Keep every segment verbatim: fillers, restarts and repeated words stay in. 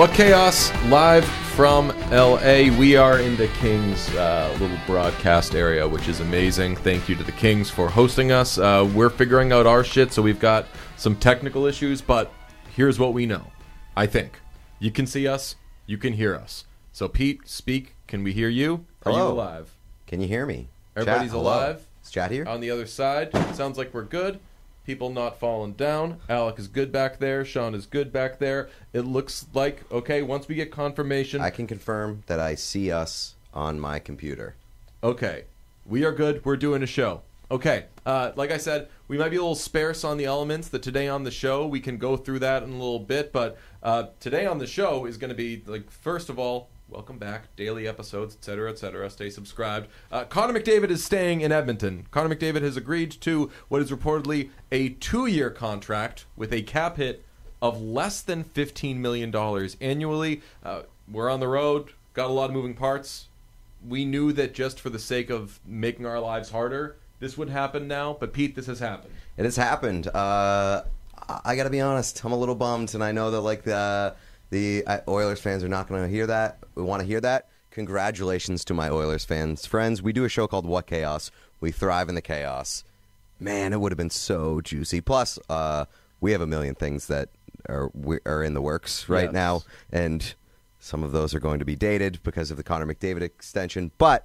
What Chaos, live from L A. We are in the Kings uh, little broadcast area, which is amazing. Thank you to the Kings for hosting us. Uh, we're figuring out our shit, so we've got some technical issues, but here's what we know. I think. You can see us, you can hear us. So Pete, speak. Can we hear you? Are Hello. you alive? Can you hear me? Everybody's Chat, alive. Is Chat here? On the other side, it sounds like we're good. People not falling down. Alec is good back there. Sean is good back there. It looks like, okay, once we get confirmation. I can confirm that I see us on my computer. Okay. We are good. We're doing a show. Okay. Uh, like I said, we might be a little sparse on the elements. That today on the show, we can go through that in a little bit. But uh, today on the show is going to be, like, first of all, welcome back. Daily episodes, et cetera, et cetera. Stay subscribed. Uh, Connor McDavid is staying in Edmonton. Connor McDavid has agreed to what is reportedly a two-year contract with a cap hit of less than fifteen million dollars annually. Uh, we're on the road. Got a lot of moving parts. We knew that just for the sake of making our lives harder, this would happen now. But, Pete, this has happened. It has happened. Uh, I, I got to be honest. I'm a little bummed, and I know that, like, the... The Oilers fans are not going to hear that. We want to hear that. Congratulations to my Oilers fans. Friends, we do a show called What Chaos. We thrive in the chaos. Man, it would have been so juicy. Plus, uh, we have a million things that are we, are in the works right Yes. now, and some of those are going to be dated because of the Connor McDavid extension. But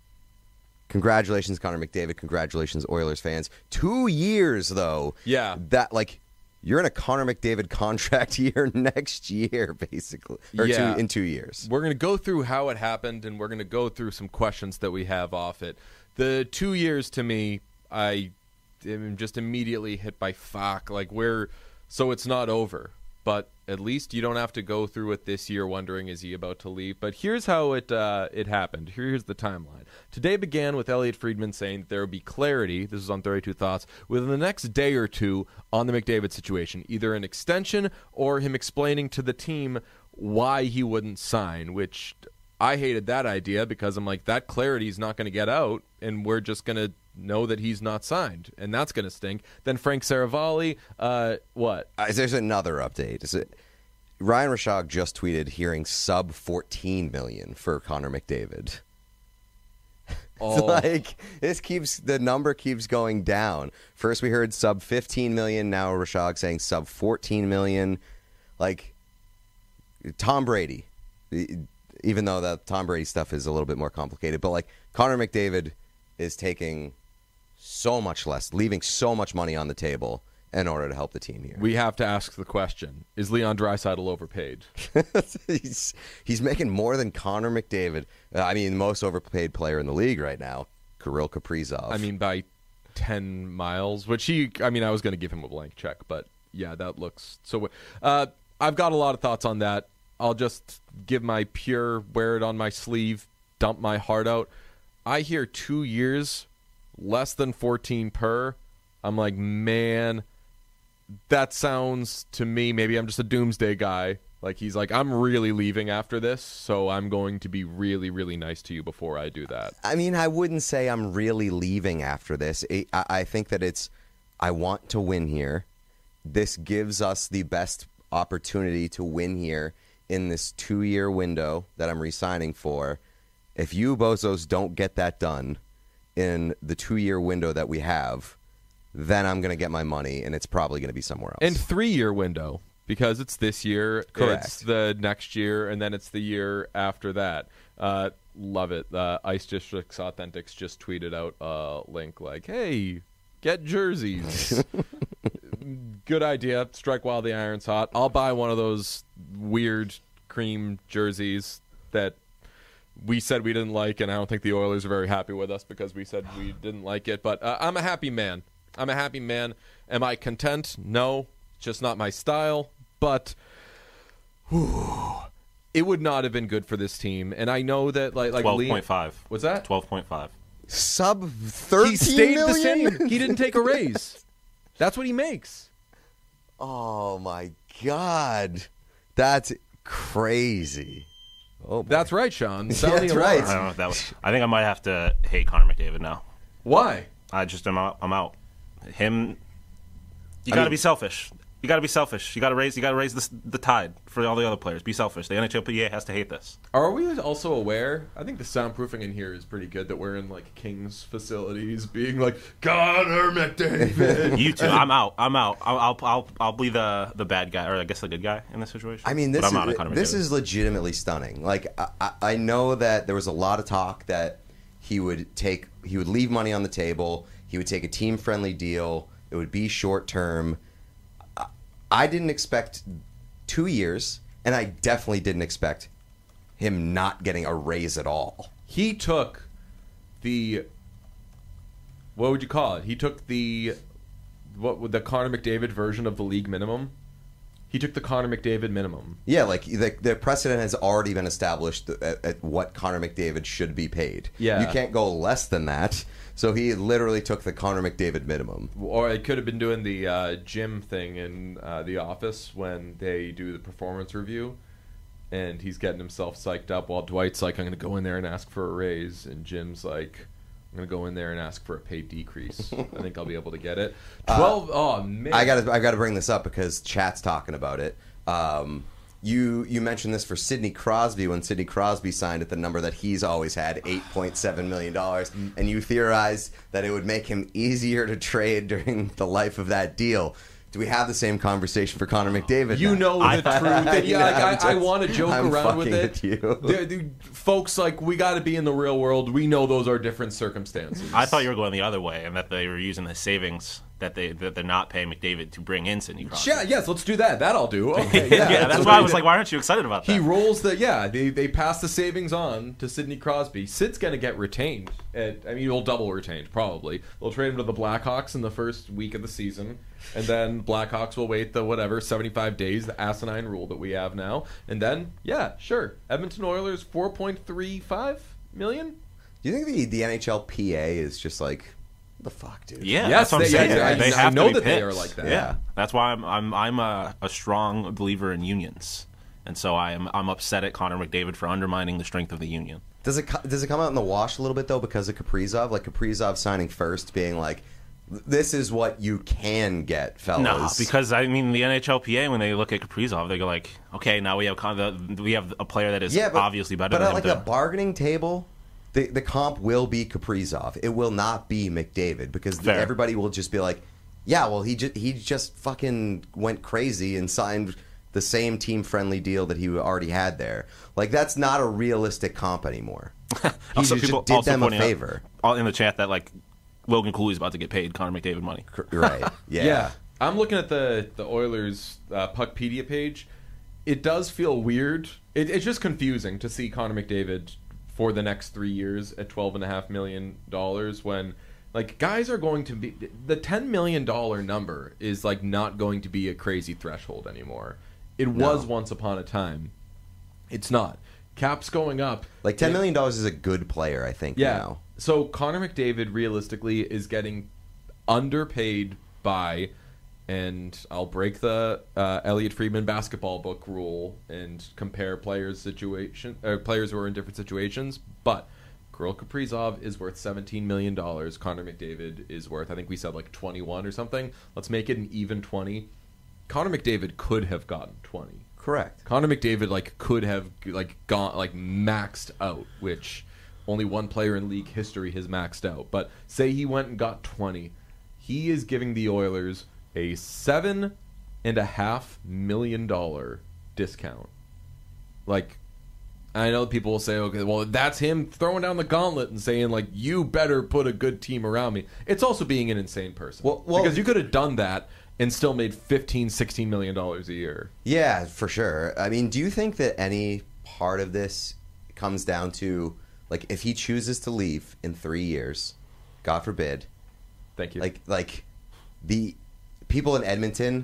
congratulations, Connor McDavid. Congratulations, Oilers fans. Two years, though. Yeah. That, like... You're in a Connor McDavid contract year next year, basically. Or Yeah. two, in two years. We're going to go through how it happened, and we're going to go through some questions that we have off it. The two years, to me, I am just immediately hit by fuck. Like, we're... So it's not over. But at least you don't have to go through it this year wondering, is he about to leave? But here's how it uh, it happened. Here's the timeline. Today began with Elliot Friedman saying that there would be clarity, this is on thirty-two Thoughts, within the next day or two on the McDavid situation. Either an extension or him explaining to the team why he wouldn't sign, which I hated that idea because I'm like, that clarity is not going to get out, and we're just going to know that he's not signed, and that's going to stink. Then Frank Saravalli, uh, what? Uh, there's another update. Is it, Ryan Rishaug just tweeted hearing sub fourteen million dollars for Connor McDavid. Oh. It's like, this keeps, the number keeps going down. First we heard sub fifteen million dollars, now Rishaug saying sub fourteen million dollars. Like, Tom Brady, even though that Tom Brady stuff is a little bit more complicated, but like, Connor McDavid is taking so much less, leaving so much money on the table in order to help the team here. We have to ask the question, is Leon Draisaitl overpaid? he's, he's making more than Connor McDavid. Uh, I mean, the most overpaid player in the league right now, Kirill Kaprizov. I mean, by ten miles, which he, I mean, I was going to give him a blank check, but yeah, that looks so. Uh, I've got a lot of thoughts on that. I'll just give my pure, wear it on my sleeve, dump my heart out. I hear two years, less than fourteen per. I'm like, man, that sounds to me, maybe I'm just a doomsday guy. Like, he's like, I'm really leaving after this, so I'm going to be really, really nice to you before I do that. I mean, I wouldn't say I'm really leaving after this. It, I, I think that it's, I want to win here. This gives us the best opportunity to win here in this two-year window that I'm re-signing for. If you bozos don't get that done in the two-year window that we have, then I'm going to get my money, and it's probably going to be somewhere else. And three-year window, because it's this year, Correct. It's the next year, and then it's the year after that. Uh, love it. Uh, Ice Districts Authentics just tweeted out a link like, hey, get jerseys. Good idea. Strike while the iron's hot. I'll buy one of those weird cream jerseys that we said we didn't like, and I don't think the Oilers are very happy with us because we said we didn't like it. But uh, I'm a happy man. I'm a happy man. Am I content? No. It's just not my style. But whew, it would not have been good for this team. And I know that, like, like twelve point five. What's that? twelve point five. Sub thirteen He stayed million? the same. He didn't take a raise. That's what he makes. Oh, my God. That's crazy. Oh, boy. That's right, Sean. Yeah, Sound that's the right. alarm. I don't know if that was. I think I might have to hate Connor McDavid now. Why? I just am out. I'm out. Him. You I got to mean- be selfish. You got to be selfish. You got to raise. You got to raise the, the tide for all the other players. Be selfish. The N H L P A has to hate this. Are we also aware? I think the soundproofing in here is pretty good. That we're in like Kings facilities, being like Connor McDavid. You too. I'm out. I'm out. I'll, I'll I'll I'll be the the bad guy, or I guess the good guy in this situation. I mean, this But I'm out is on Connor this McDavid. is legitimately stunning. Like I, I I know that there was a lot of talk that he would take he would leave money on the table. He would take a team friendly deal. It would be short term. I didn't expect two years, and I definitely didn't expect him not getting a raise at all. He took the what would you call it? He took the what would the Connor McDavid version of the league minimum. He took the Connor McDavid minimum. Yeah, like the, the precedent has already been established at, at what Connor McDavid should be paid. Yeah. You can't go less than that. So he literally took the Connor McDavid minimum. Or it could have been doing the uh, gym thing in uh, The Office when they do the performance review, and he's getting himself psyched up while Dwight's like, I'm going to go in there and ask for a raise, and Jim's like, I'm going to go in there and ask for a pay decrease. I think I'll be able to get it. twelve, uh, oh, man. I got I got to bring this up because chat's talking about it. Um, you you mentioned this for Sidney Crosby when Sidney Crosby signed at the number that he's always had, eight point seven million dollars, and you theorized that it would make him easier to trade during the life of that deal. Do we have the same conversation for Connor McDavid? You now? know the I- truth. And yeah, Yeah, like, I'm I, I just- want to joke I'm around with fucking it. with you. The- the- folks, like, we got to be in the real world. We know those are different circumstances. I thought you were going the other way, and that they were using the savings that they that they're not paying McDavid to bring in Sidney Crosby. Yeah, yes, let's do that. That I'll do. Okay, yeah, yeah, that's what why I they was did. like, why aren't you excited about that? He rolls the yeah. They they pass the savings on to Sidney Crosby. Sid's gonna get retained. At, I mean, he'll double retained probably. They'll trade him to the Blackhawks in the first week of the season, and then Blackhawks will wait the whatever seventy-five days, the asinine rule that we have now, and then yeah, sure, Edmonton Oilers four point three five million. Do you think the, the N H L P A is just like, what the fuck, dude? Yeah, Yes, that's what I'm they- saying. yeah, I- they I have know to be that they pissed. are like that. Yeah, that's why I'm I'm I'm a, a strong believer in unions, and so I am I'm upset at Connor McDavid for undermining the strength of the union. Does it co- does it come out in the wash a little bit though because of Kaprizov? Like Kaprizov signing first, being like, "This is what you can get, fellas." No, because I mean the N H L P A when they look at Kaprizov, they go like, okay, now we have con- the, we have a player that is yeah, but, obviously better But than at him. like to- a bargaining table, the the comp will be Kaprizov. It will not be McDavid because the, Fair. everybody will just be like, "Yeah, well, he just he just fucking went crazy and signed the same team friendly deal that he already had there." Like that's not a realistic comp anymore. He Also, just people did also them a pointing out- favor, all in the chat that like Logan Cooley's about to get paid Connor McDavid money. right? Yeah. Yeah, I'm looking at the the Oilers uh, Puckpedia page. It does feel weird. It, it's just confusing to see Connor McDavid for the next three years at twelve and a half million dollars when like guys are going to be the ten million dollar number is like not going to be a crazy threshold anymore. It No. was once upon a time. It's not. Cap's going up. Like ten It- million dollars is a good player, I think. yeah. Now. So Connor McDavid realistically is getting underpaid by, and I'll break the uh, Elliot Friedman basketball book rule and compare players situation uh, players who are in different situations. But Kirill Kaprizov is worth seventeen million dollars. Connor McDavid is worth, I think we said like twenty-one or something. Let's make it an even twenty. Connor McDavid could have gotten twenty. Correct. Connor McDavid like could have like gone like maxed out, which only one player in league history has maxed out. But say he went and got twenty, he is giving the Oilers a seven and a half million dollar discount. Like, I know people will say, okay, well that's him throwing down the gauntlet and saying like, you better put a good team around me. It's also being an insane person. Well- well- because you could have done that and still made fifteen, sixteen million dollars a year. Yeah, for sure. I mean, do you think that any part of this comes down to, like, if he chooses to leave in three years, God forbid, Thank you. like, like the people in Edmonton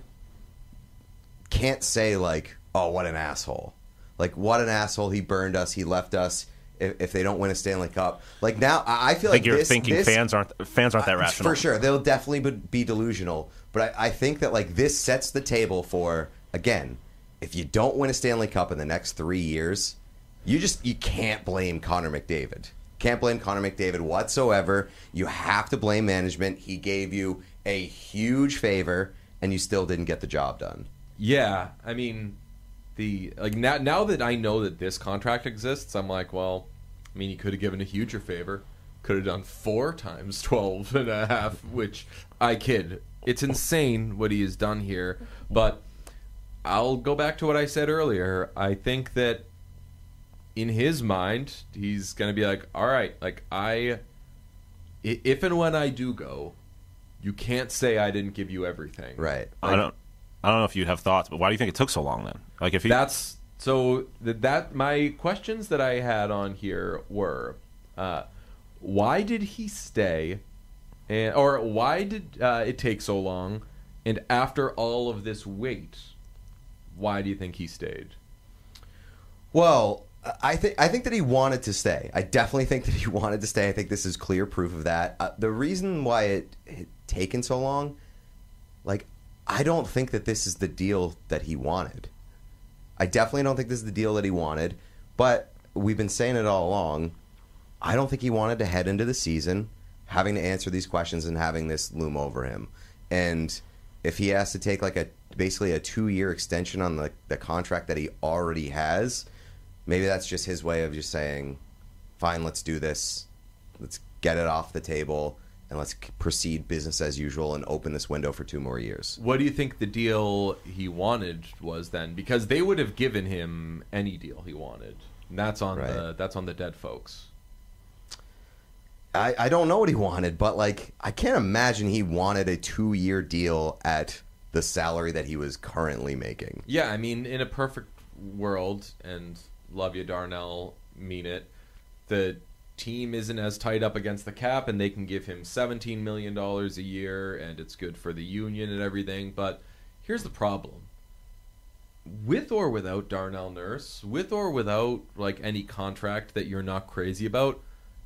can't say, like, oh, what an asshole. Like, what an asshole. He burned us. He left us. If, if they don't win a Stanley Cup. Like, now, I I feel I think like you're this, thinking this, fans aren't fans aren't that Uh, rational. For sure. They'll definitely be- be delusional. But I, I think that, like, this sets the table for, again, if you don't win a Stanley Cup in the next three years, you just, you can't blame Connor McDavid. Can't blame Connor McDavid whatsoever. You have to blame management. He gave you a huge favor, and you still didn't get the job done. Yeah, I mean, the like now now that I know that this contract exists, I'm like, well, I mean, he could have given a huger favor. Could have done four times twelve and a half, which I kid. It's insane what he has done here. But I'll go back to what I said earlier. I think that in his mind, he's going to be like, all right, like I, if and when I do go, you can't say I didn't give you everything. Right. I don't. I don't know if you'd have thoughts, but why do you think it took so long then? Like if he, That's so that, that my questions that I had on here were, uh, why did he stay, and or why did uh, it take so long, and after all of this wait, why do you think he stayed? Well, I think I think that he wanted to stay. I definitely think that he wanted to stay. I think this is clear proof of that. Uh, the reason why it, it taken so long, like, I don't think that this is the deal that he wanted. I definitely don't think this is the deal that he wanted. But we've been saying it all along. I don't think he wanted to head into the season having to answer these questions and having this loom over him. And if he has to take like a basically a two-year extension on the, the contract that he already has, maybe that's just his way of just saying, fine, let's do this. Let's get it off the table, and let's proceed business as usual and open this window for two more years. What do you think the deal he wanted was then? Because they would have given him any deal he wanted. And that's on Right. the that's on the dead folks. I, I don't know what he wanted, but like I can't imagine he wanted a two-year deal at the salary that he was currently making. Yeah, I mean, in a perfect world, and love you, Darnell, mean it, the team isn't as tight up against the cap, and they can give him seventeen million dollars a year, and it's good for the union and everything. But here's the problem. With or without Darnell Nurse, with or without like any contract that you're not crazy about,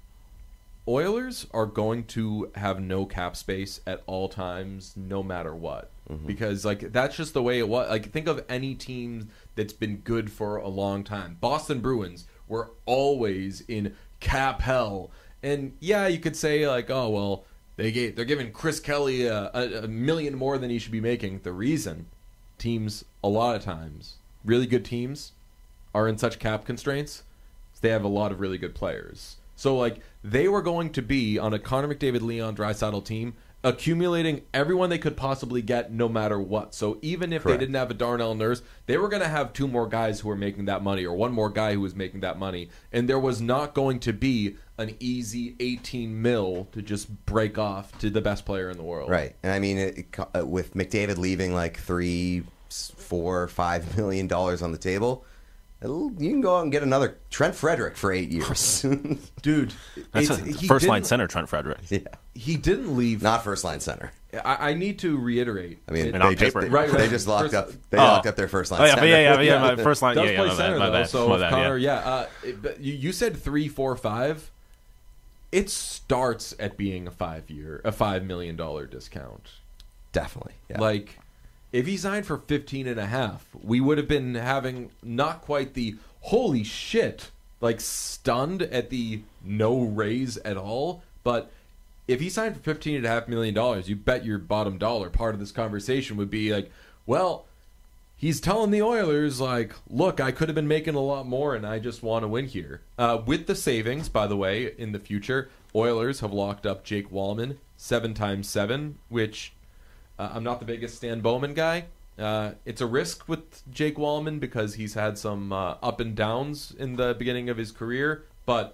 Oilers are going to have no cap space at all times, no matter what. Mm-hmm. Because like that's just the way it was. Like think of any team that's been good for a long time. Boston Bruins were always in cap hell, and yeah, you could say like, oh well, they gave they're giving Chris Kelly a, a, a million more than he should be making. The reason teams a lot of times, really good teams, are in such cap constraints is they have a lot of really good players. So, like, they were going to be on a Connor McDavid, Leon Draisaitl team, accumulating everyone they could possibly get no matter what. So, even if Correct. they didn't have a Darnell Nurse, they were going to have two more guys who were making that money, or one more guy who was making that money. And there was not going to be an easy eighteen mil to just break off to the best player in the world. Right. And I mean, it, it, with McDavid leaving like three, four, five million dollars on the table, you can go out and get another Trent Frederick for eight years. Dude, That's it's, a he first line didn't- center, Trent Frederick. Yeah. He didn't leave. Not first line center. I, I need to reiterate. I mean, it- And on they just, paper. they, Right, they right. just locked First- up. They Oh. locked up their first line Oh yeah, center. but yeah, yeah, yeah, my first line. does Yeah, yeah, play my center bad, my though. bad, So my if bad, Connor, yeah. yeah, uh, it, but you, you said three, four, five. It starts at being a five year, a five million dollar discount. Definitely. Yeah. Like, if he signed for fifteen and a half, we would have been having not quite the holy shit, like stunned at the no raise at all. But if he signed for fifteen and a half million dollars, you bet your bottom dollar part of this conversation would be like, well, he's telling the Oilers, like, look, I could have been making a lot more, and I just want to win here. Uh, with the savings, by the way, in the future, Oilers have locked up Jake Wallman seven times seven, which uh, I'm not the biggest Stan Bowman guy. Uh, it's a risk with Jake Wallman because he's had some uh, up and downs in the beginning of his career, but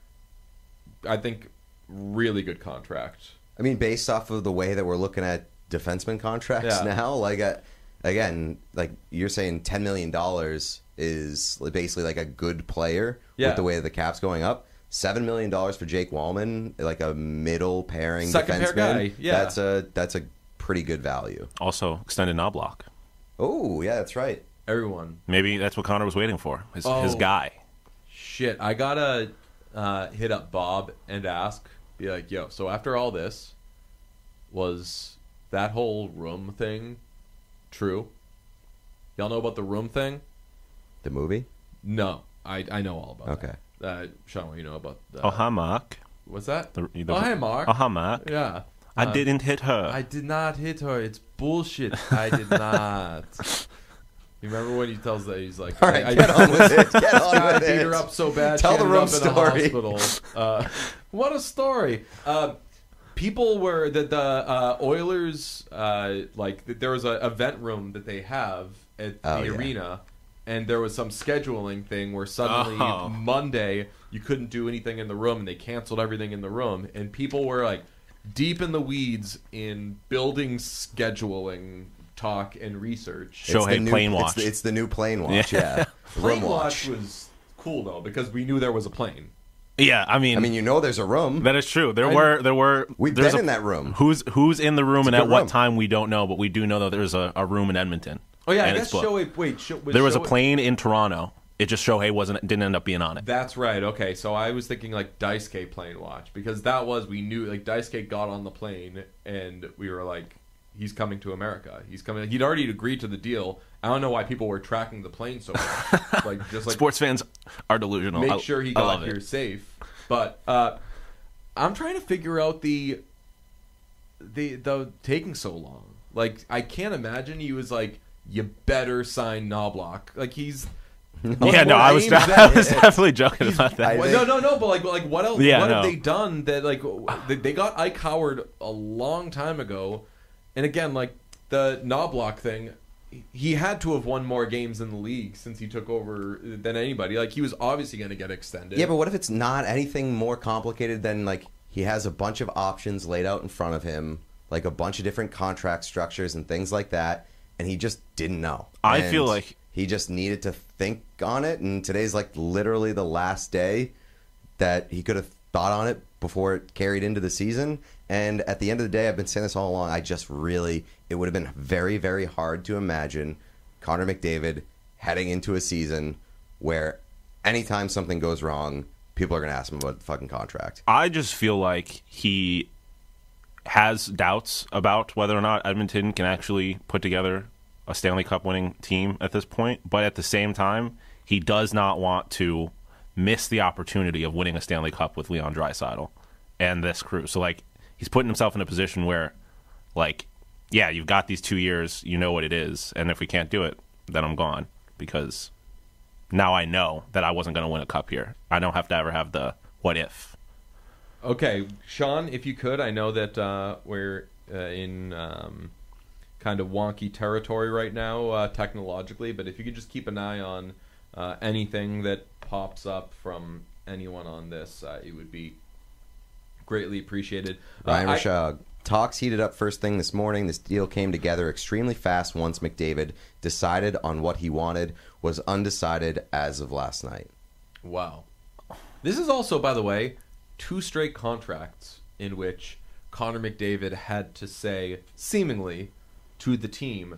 I think really good contract. I mean, based off of the way that we're looking at defenseman contracts Yeah. now, like, uh, again, like you're saying ten million dollars is basically like a good player Yeah. with the way the cap's going up. seven million dollars for Jake Wallman, like a middle pairing Second pair defenseman. guy, yeah. That's a, that's a pretty good value. Also, extended knob block. Oh, yeah, that's right. Everyone. Maybe that's what Connor was waiting for. His Oh. his guy. Shit, I gotta uh, hit up Bob and ask, be like, yo, so after all this, was that whole room thing true? Y'all know about the room thing? The movie? No, I I know all about Okay. that. Uh, Sean, what do you know about that? Oh, hi, Mark. What's that? The, the, Oh, hi, Mark. Oh, hi, Mark. Yeah. I didn't hit her. I did not hit her. It's bullshit. I did not. You remember when he tells that he's like, All right, I, get I, on with it. Get on I with beat it. her up so bad. Tell she the ended room up story. in a hospital. Uh, what a story. Uh, people were that the uh, Oilers uh, like there was an event room that they have at Oh, the yeah. arena, and there was some scheduling thing where suddenly Oh. Monday you couldn't do anything in the room, and they canceled everything in the room, and people were like deep in the weeds in building scheduling talk and research. It's Shohei the new- plane it's watch. the- It's the new plane watch. Yeah. Yeah, Plane room watch watch. was cool though because we knew there was a plane. Yeah, I mean, I mean, you know, there's a room. that is true. There I- were there were We've there's been a- in that room. Who's who's in the room It's a and at good what room. time we don't know, but we do know that there's a, a room in Edmonton. Oh yeah, I and guess it's booked. Shohei. Wait, Sho, was There was a Shohei- plane in Toronto. It just Shohei wasn't didn't end up being on it. That's right. Okay, so I was thinking like Daisuke plane watch because that was we knew like Daisuke got on the plane and we were like, he's coming to America. He's coming. He'd already agreed to the deal. I don't know why people were tracking the plane so much. like just like Sports fans are delusional. make I- sure he I got love here it. safe. But uh, I'm trying to figure out the the the taking so long. Like I can't imagine he was like, you better sign Knobloch. Like he's Yeah, no, I was names I that- was definitely joking about that. I Well, think- no, no, no. But like, like what else? Yeah, what no. have they done that like they, they got Ike Howard a long time ago? And again, like the Knobloch thing, he had to have won more games in the league since he took over than anybody. Like he was obviously going to get extended. Yeah, but what if it's not anything more complicated than like he has a bunch of options laid out in front of him, like a bunch of different contract structures and things like that, and he just didn't know. I And feel like- he just needed to think on it, and today's like literally the last day that he could have thought on it before it carried into the season. And at the end of the day, I've been saying this all along, I just really, it would have been very, very hard to imagine Connor McDavid heading into a season where anytime something goes wrong, people are going to ask him about the fucking contract. I just feel like he has doubts about whether or not Edmonton can actually put together a Stanley Cup winning team at this point. But at the same time, he does not want to miss the opportunity of winning a Stanley Cup with Leon Draisaitl and this crew. So, like, he's putting himself in a position where, like, yeah, you've got these two years, you know what it is, and if we can't do it, then I'm gone because now I know that I wasn't going to win a cup here. I don't have to ever have the what if. Okay, Sean, if you could, I know that uh, we're uh, in um, kind of wonky territory right now uh, technologically, but if you could just keep an eye on uh, anything that pops up from anyone on this, uh, it would be greatly appreciated. Uh, Ryan I- Rishaug. Talks heated up first thing this morning. This deal came together extremely fast once McDavid decided on what he wanted, was undecided as of last night. Wow. This is also, by the way, two straight contracts in which Connor McDavid had to say, seemingly, to the team,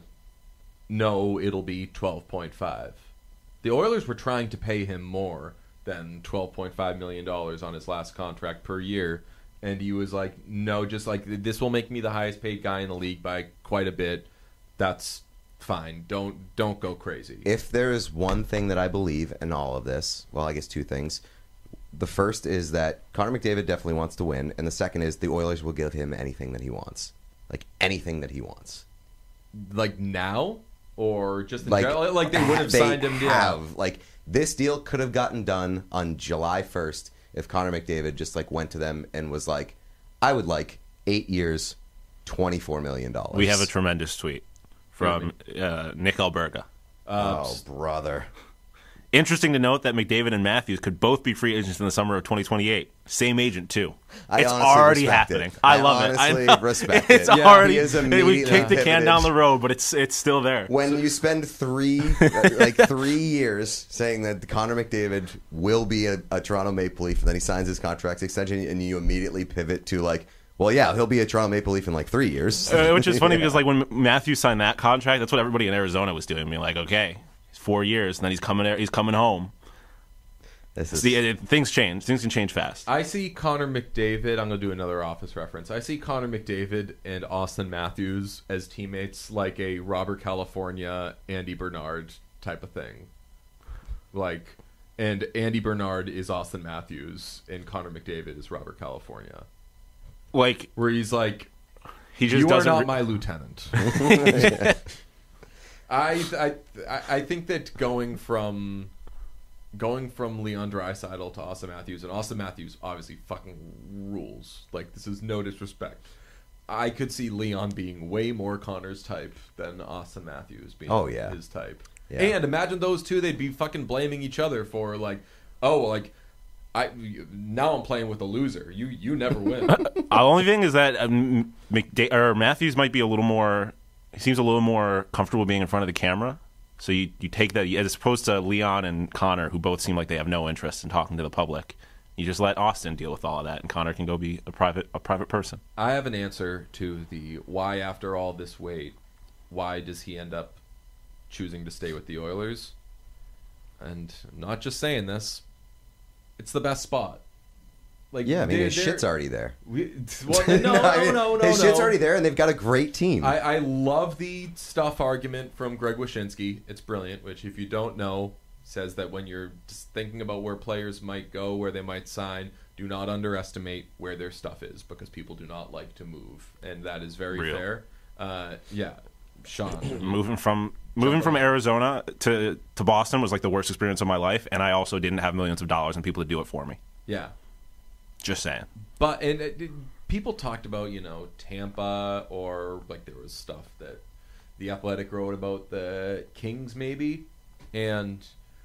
no, it'll be twelve point five. The Oilers were trying to pay him more than twelve point five million dollars on his last contract per year, and he was like, no, just like, this will make me the highest paid guy in the league by quite a bit. That's fine. Don't don't go crazy. If there is one thing that I believe in all of this, well, I guess two things. The first is that Connor McDavid definitely wants to win, and the second is the Oilers will give him anything that he wants. Like, anything that he wants. Like now? Or just in Like, general? Like they would have they signed him. Yeah. have. Like, this deal could have gotten done on July first if Connor McDavid just, like, went to them and was like, I would like eight years, twenty-four million dollars. We have a tremendous tweet from uh, Nick Alberga. Uh, Oh, brother. Interesting to note that McDavid and Matthews could both be free agents in the summer of twenty twenty-eight. Same agent, too. I it's honestly already respect happening. it. I I love it. I honestly know. respect It's it. Yeah, already. he is we immediately kicked the can pivoted. down the road, but it's it's still there. When you spend three, like three years saying that Connor McDavid will be a, a Toronto Maple Leaf, and then he signs his contract extension, and you immediately pivot to like, well, yeah, he'll be a Toronto Maple Leaf in like three years. Uh, which is funny Yeah. because like when Matthews signed that contract, that's what everybody in Arizona was doing. Being like, okay, it's four years, and then he's coming. He's coming home. This is, See, it, things change. Things can change fast. I see Connor McDavid. I'm going to do another Office reference. I see Connor McDavid and Austin Matthews as teammates, like a Robert California, Andy Bernard type of thing. Like, and Andy Bernard is Austin Matthews, and Connor McDavid is Robert California. Like, Where he's like, He just you are doesn't. not re- my lieutenant. I, I I think that going from going from Leon Draisaitl to Austin Matthews, and Austin Matthews obviously fucking rules. Like, this is no disrespect. I could see Leon being way more Connor's type than Austin Matthews being Oh, yeah. his type. Yeah. And imagine those two, they'd be fucking blaming each other for, like, oh, like, I now I'm playing with a loser. You you never win. The only thing is that um, McDa- or Matthews might be a little more. He seems a little more comfortable being in front of the camera. So you, you take that as opposed to Leon and Connor, who both seem like they have no interest in talking to the public. You just let Austin deal with all of that, and Connor can go be a private a private person. I have an answer to the why after all this wait, why does he end up choosing to stay with the Oilers? And I'm not just saying this, it's the best spot. Like, Yeah, I mean, they're- his shit's they're- already there. We, well, no, no, I no, mean, no, no. His shit's no. already there, and they've got a great team. I, I love the stuff argument from Greg Wyshynski. It's brilliant, which, if you don't know, says that when you're just thinking about where players might go, where they might sign, do not underestimate where their stuff is, because people do not like to move. And that is very Real. fair. Uh, yeah, Sean. Moving from moving from Arizona to to Boston was like the worst experience of my life, and I also didn't have millions of dollars and people to do it for me. Yeah. Just saying. But and it, it- people talked about, you know, Tampa, or like there was stuff that the Athletic wrote about the Kings maybe, and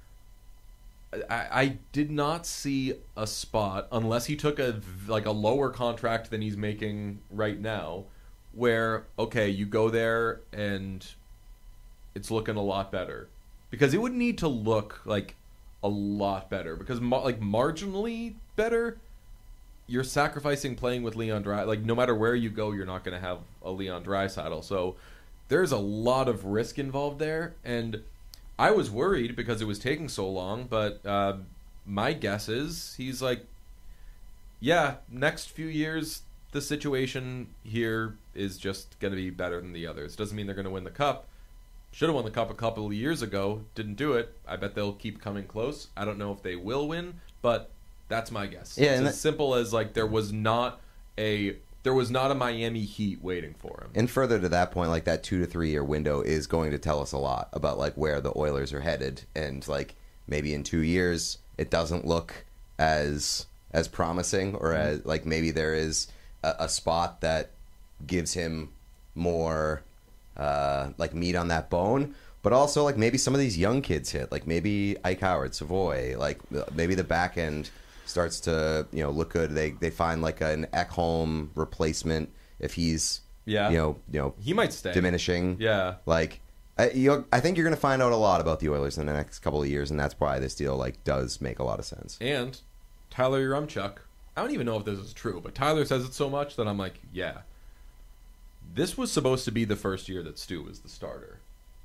I, I did not see a spot, unless he took a like a lower contract than he's making right now, where okay, you go there and it's looking a lot better, because it would need to look like a lot better, because mar- like marginally better. You're sacrificing playing with Leon Dry. Like, no matter where you go, you're not going to have a Leon Draisaitl. So there's a lot of risk involved there. And I was worried because it was taking so long. But uh, my guess is he's like, yeah, next few years, the situation here is just going to be better than the others. Doesn't mean they're going to win the cup. Should have won the cup a couple of years ago. Didn't do it. I bet they'll keep coming close. I don't know if they will win, but that's my guess. Yeah, it's and as that- simple as like there was not a there was not a Miami Heat waiting for him. And further to that point, like that two to three year window is going to tell us a lot about like where the Oilers are headed, and like maybe in two years it doesn't look as as promising, or as like maybe there is a, a spot that gives him more uh, like meat on that bone. But also, like, maybe some of these young kids hit. Like, maybe Ike Howard, Savoy. Like, maybe the back end starts to, you know, look good. They they find, like, an Ekholm replacement if he's, Yeah. you know, you know, He might stay. diminishing. Yeah. Like, I, you I think you're going to find out a lot about the Oilers in the next couple of years, and that's why this deal, like, does make a lot of sense. And Tyler Yaremchuk, I don't even know if this is true, but Tyler says it so much that I'm like, yeah. This was supposed to be the first year that Stu was the starter.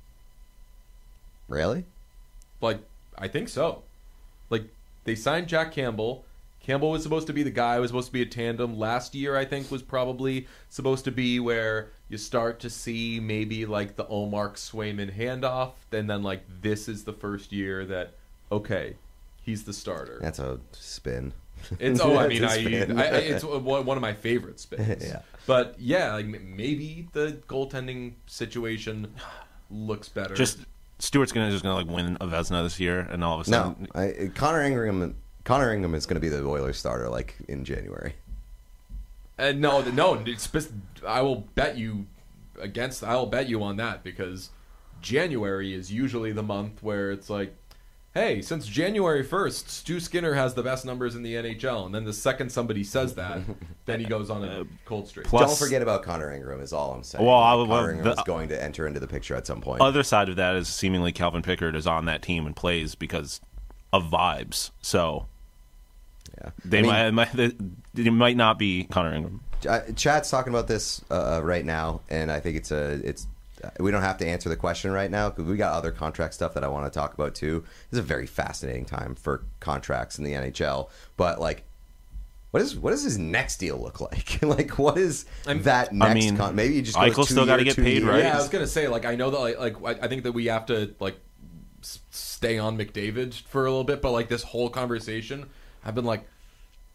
Really? Like, I think so. Like, they signed Jack Campbell. Campbell was supposed to be the guy. It was supposed to be a tandem. Last year, I think, was probably supposed to be where you start to see maybe, like, the Omar Swayman handoff. And then, like, this is the first year that, okay, he's the starter. That's a spin. It's oh, I mean, It's I, a spin. I it's one one of my favorite spins. Yeah. But yeah, like m- maybe the goaltending situation looks better. Just Stewart's gonna just gonna like win a Vezina this year, and all of a No, sudden, I, Connor Ingram. Connor Ingram is going to be the Oilers starter, like, in January. Uh, no, no. It's, spec- I will bet you against. I will bet you on that, because January is usually the month where it's like, hey, since January first, Stu Skinner has the best numbers in the N H L, and then the second somebody says that, then he goes on a cold streak. Plus- Don't forget about Connor Ingram is all I'm saying. Well, I Like, would- Connor well, Ingram the- is going to enter into the picture at some point. other side of that is seemingly Calvin Pickard is on that team and plays because of vibes. So yeah. they I mean, might, might they, they might not be Connor Ingram. Uh, Chad's talking about this uh, right now, and I think it's a it's. Uh, we don't have to answer the question right now because we got other contract stuff that I want to talk about too. This is a very fascinating time for contracts in the N H L. But like, what is what does his next deal look like? Like, what is I'm- that next? mean, con- maybe you just go Eichel's two still gotta year, get two paid, year. right? Yeah, I was gonna say, like, I know that, like, like I I think that we have to like s- stay on McDavid for a little bit, but like this whole conversation, I've been like,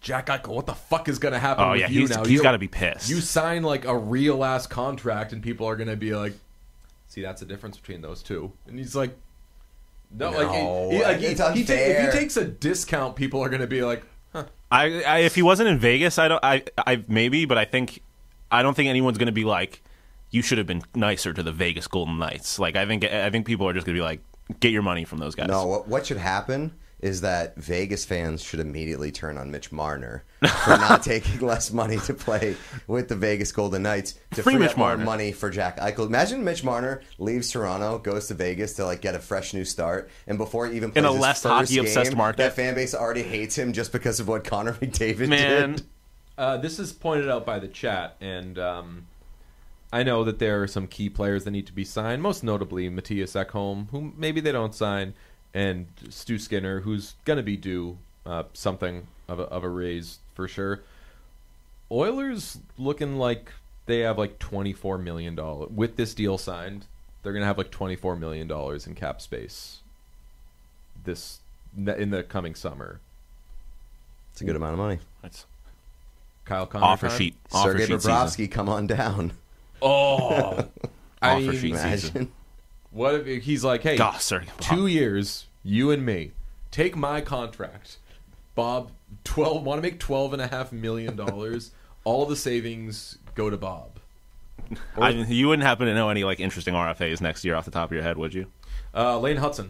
Jack Eichel, what the fuck is going to happen Oh with yeah, you he's now? he's You- got to be pissed. You sign like a real ass contract, and people are going to be like, "See, that's the difference between those two." And he's like, "No, No, like, he, he, like he, it's he ta- if unfair. he takes a discount, people are going to be like, huh. I, I if he wasn't in Vegas, I don't. I I maybe, but I think I don't think anyone's going to be like, you should have been nicer to the Vegas Golden Knights. Like I think I think people are just going to be like, get your money from those guys. No, what, what should happen is that Vegas fans should immediately turn on Mitch Marner for not taking less money to play with the Vegas Golden Knights to Free free, Mitch up more Marner. money for Jack Eichel. Imagine Mitch Marner leaves Toronto, goes to Vegas to like get a fresh new start, and before he even plays In a his less first hockey-obsessed game, market. that fan base already hates him just because of what Connor McDavid Man, did. Uh, this is pointed out by the chat, and um, I know that there are some key players that need to be signed, most notably Matthias Ekholm, who maybe they don't sign, and Stu Skinner, who's going to be due uh, something of a, of a raise for sure. Oilers looking like they have like twenty-four million dollars. With this deal signed, they're going to have like twenty-four million dollars in cap space this in the coming summer. It's a good amount of money. It's Kyle Connor offer time? sheet. Offer Sergei sheet season. Bobrovsky, come on down. Oh, I Offer mean, sheet season. Imagine. what if he's like, hey, God, Sergei two Bobrovsky. years, you and me, take my contract, Bob. Twelve want to make twelve and a half million dollars. All the savings go to Bob. I, you wouldn't happen to know any like interesting R F As next year off the top of your head, would you? Uh, Lane Hudson.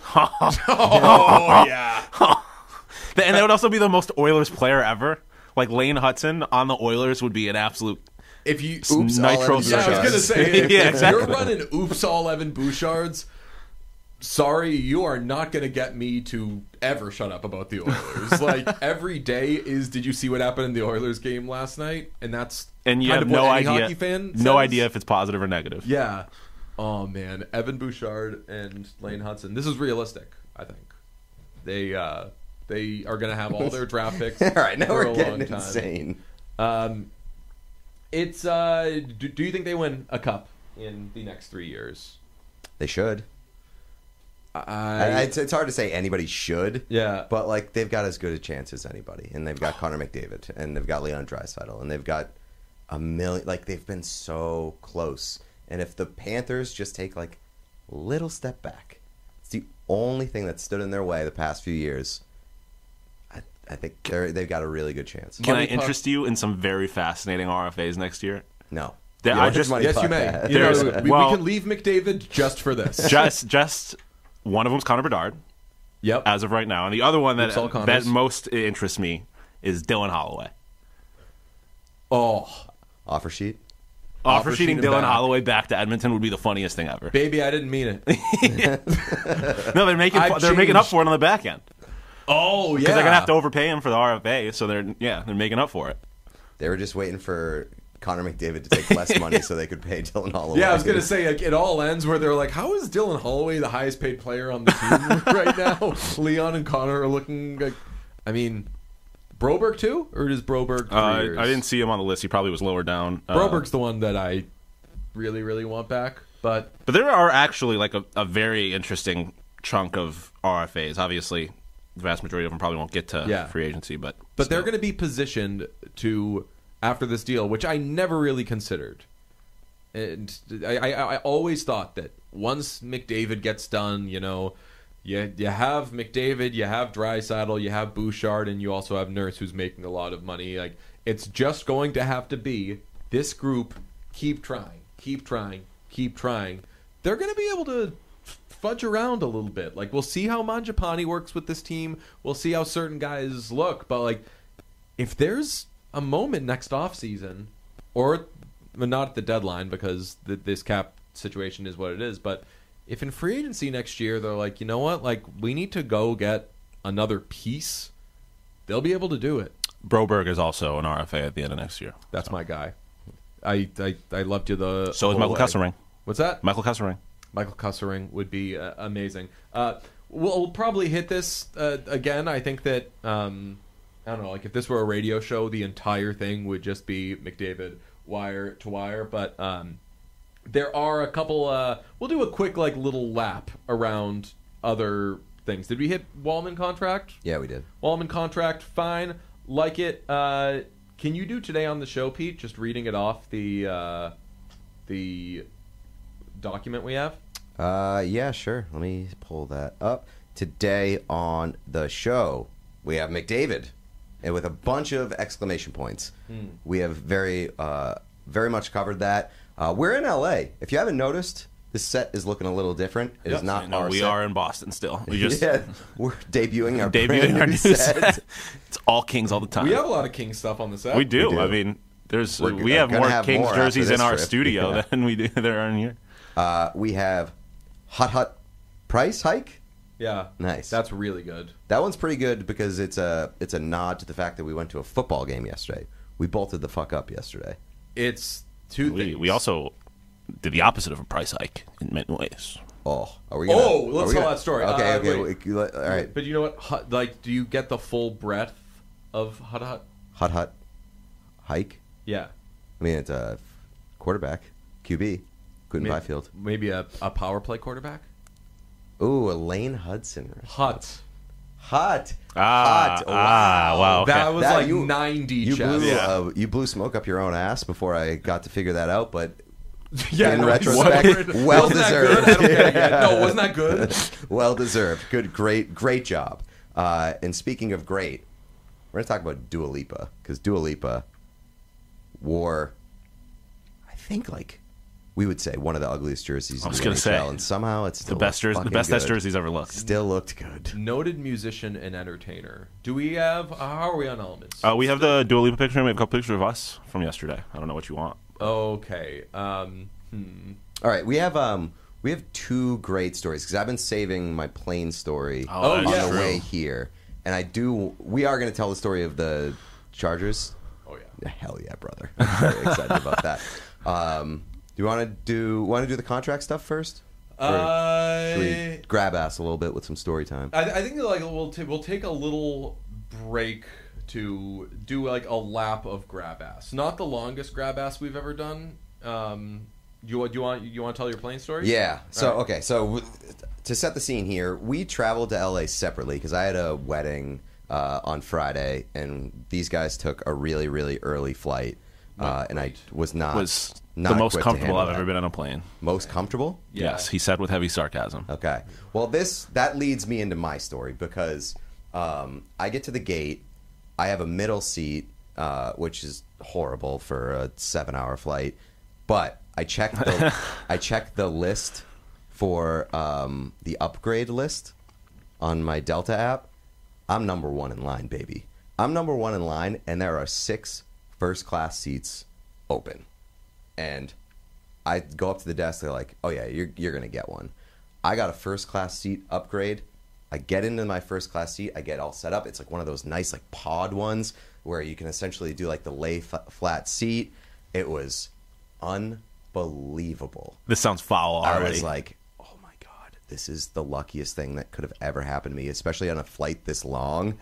oh yeah. And that would also be the most Oilers player ever. Like Lane Hudson on the Oilers would be an absolute. If you Oops, Nitro all yeah, I was Bouchard. gonna say, if, Yeah, if exactly. you're running oops all Evan Bouchards, sorry, you are not gonna get me to ever shut up about the Oilers. Like every day is, did you see what happened in the Oilers game last night? And that's And you kind have of what no any idea. hockey fan No says. idea if it's positive or negative. Yeah. Oh man, Evan Bouchard and Lane Hudson. This is realistic. I think they uh, they are gonna have all their draft picks. All right, now for we're a getting long time. insane. Um, it's uh, do, do you think they win a cup in the next three years? They should. I, I, it's, it's hard to say anybody should. yeah, But like they've got as good a chance as anybody, and they've got Connor McDavid, and they've got Leon Draisaitl, and they've got a million. Like they've been so close, and if the Panthers just take like a little step back, it's the only thing that stood in their way the past few years. I, I think they're they've got a really good chance. Can Money I interest you in some very fascinating R F As next year? No, There Yeah, are just just money yes, you puck may. that. You know, There's- we, well- we can leave McDavid just for this. just just one of them's Connor Bedard Yep. as of right now, and the other one that Oops, all that Connors. most interests me is Dylan Holloway. Oh, Offer sheet. Offer, Offer sheeting sheet him Dylan back. Holloway back to Edmonton would be the funniest thing ever. baby, I didn't mean it. No, they're making I've they're making up changed. for it on the back end Oh yeah, because they're gonna have to overpay him for the R F A, so they're yeah they're making up for it. They were just waiting for Connor McDavid to take less money so they could pay Dylan Holloway. Yeah, I was gonna say like, it all ends where they're like, "How is Dylan Holloway the highest paid player on the team right now?" Leon and Connor are looking like, I mean, Broberg too, or is Broberg? Three Uh, years? I didn't see him on the list. He probably was lower down. Uh, Broberg's the one that I really, really want back, but But there are actually like a, a very interesting chunk of R F As. Obviously, the vast majority of them probably won't get to Yeah. free agency, but but they're still. going to be positioned to after this deal, which I never really considered. And I, I, I always thought that once McDavid gets done, you know, you you have McDavid, you have Draisaitl, you have Bouchard, and you also have Nurse, who's making a lot of money. Like it's just going to have to be this group. Keep trying, keep trying, keep trying. They're going to be able to fudge around a little bit. Like we'll see how Mangiapane works with this team. We'll see how certain guys look. But like, if there's a moment next off season, or well, not at the deadline because the, this cap situation is what it is. But if in free agency next year they're like, you know what, like we need to go get another piece, they'll be able to do it. Broberg is also an R F A at the end of next year. That's my guy. I I, I loved you the So is whole Michael way. Kesselring. What's that? Michael Kesselring. Michael Kussering would be uh, amazing. Uh, we'll, we'll probably hit this uh, again. I think that um, I don't know. Like if this were a radio show, the entire thing would just be McDavid wire to wire. But um, there are a couple. Uh, we'll do a quick like little lap around other things. Did we hit Wallman contract? Yeah, we did. Wallman contract, fine. Like it. Uh, can you do today on the show, Pete? Just reading it off the uh, the document we have. Uh, yeah, sure. Let me pull that up. Today on the show, we have McDavid, and with a bunch of exclamation points. Hmm. We have very, uh, very much covered that. Uh, we're in L A. If you haven't noticed, this set is looking a little different. It Yep. is not No, our we set. are in Boston still. We just yeah, we're debuting our brand debuting our new new set. set. It's all Kings all the time. We have a lot of King stuff on the set. We do. We do. I mean, there's We're we g- have gonna more have Kings more after jerseys this in our trip. studio Yeah. than we do there are in here. Uh, we have Hut Hut price hike. Yeah. Nice. That's really good. That one's pretty good because it's a it's a nod to the fact that we went to a football game yesterday. We bolted the fuck up yesterday. It's two We, things. we also did the opposite of a price hike in many ways. Oh, are we? Gonna, Oh, are let's we tell gonna- that story. Okay, Uh, okay. wait. we- let- all right. But you know what? Hut, like, do you get the full breadth of Hut Hut? Hut Hut hike. Yeah. I mean, it's a quarterback, Q B, Quentin Maybe, Byfield. maybe a, a power play quarterback? Ooh, Elaine Hudson. Hut. Hut. Ah, Hut. ah, wow. Okay. That was That- like you- ninety You chess. blew, Yeah. uh, you blew smoke up your own ass before I got to figure that out, but Yeah, in no, retrospect, wasn't well that deserved. good? I don't get it yet. No, wasn't that good? well deserved. Good, great, great job. Uh, and speaking of great, we're going to talk about Dua Lipa because Dua Lipa wore, I think, like we would say, one of the ugliest jerseys I was in the gonna N H L, say, and somehow it's The still best jersey, the fucking best good. S jerseys ever looked. Still looked good. Noted musician and entertainer. Do we have? How are we on elements? Uh, we have the Dua Lipa picture. We have a couple pictures of us from yesterday. I don't know what you want. Okay. Um. Hmm. All right, we have um we have two great stories because I've been saving my plane story Oh, on that's the true. way here, and I do. We are going to tell the story of the Chargers. Oh yeah. Hell yeah, brother! I'm very excited about that. Um, do you want to do want to do the contract stuff first? Or should we Uh, grab ass a little bit with some story time? I, I think like we'll t- we'll take a little break to do like a lap of grab ass. Not the longest grab ass we've ever done. Um, you do you want you want to tell your plane story? Yeah. So All right. okay. So w- to set the scene here, we traveled to L A separately because I had a wedding uh, on Friday, and these guys took a really really early flight, uh, and I was not Was not the most equipped to comfortable I've handle ever that. been on a plane. Most comfortable. Yeah. Yes, he said with heavy sarcasm. Okay. Well, this that leads me into my story because um, I get to the gate. I have a middle seat, uh, which is horrible for a seven-hour flight. But I checked the I checked the list for um, the upgrade list on my Delta app. I'm number one in line, baby. I'm number one in line, and there are six first-class seats open. And I go up to the desk. They're like, "Oh yeah, you're you're gonna get one." I got a first class seat upgrade. I get into my first class seat. I get all set up. It's like one of those nice like pod ones where you can essentially do like the lay f- flat seat. It was unbelievable. This sounds foul already. I was like, "Oh my god, this is the luckiest thing that could have ever happened to me, especially on a flight this long."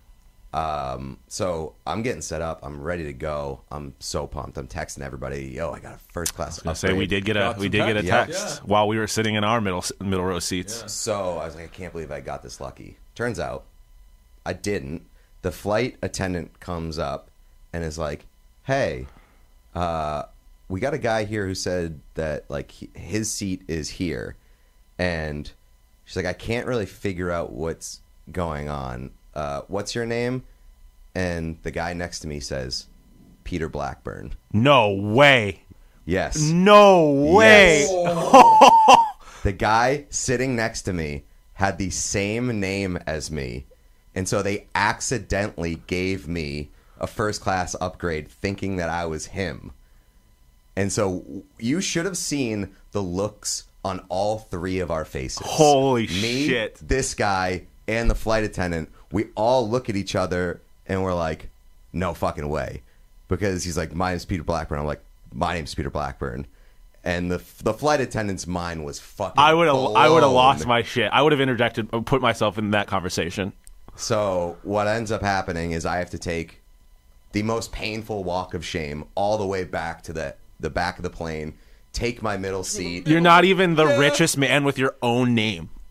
Um, so I'm getting set up. I'm ready to go. I'm so pumped. I'm texting everybody, "Yo, I got a first class I upgrade." say we did get a Got we some did get a text. text Yeah. while we were sitting in our middle middle row seats. Yeah. So I was like, I can't believe I got this lucky. Turns out I didn't. The flight attendant comes up and is like, "Hey, uh, we got a guy here who said that like he, his seat is here," and she's like, "I can't really figure out what's going on. Uh, what's your name?" And the guy next to me says, "Peter Blackburn." No way. Yes. No way. Yes. The guy sitting next to me had the same name as me, and so they accidentally gave me a first class upgrade thinking that I was him. And so you should have seen the looks on all three of our faces. Holy me, shit. This guy and the flight attendant, we all look at each other and we're like, "No fucking way." Because he's like, "My name's Peter Blackburn." I'm like, "My name's Peter Blackburn." And the the flight attendant's mind was fucking I would have I would have blown. lost my shit. I would have interjected, put myself in that conversation. So what ends up happening is I have to take the most painful walk of shame all the way back to the, the back of the plane, take my middle seat. You're not even the Yeah. richest man with your own name.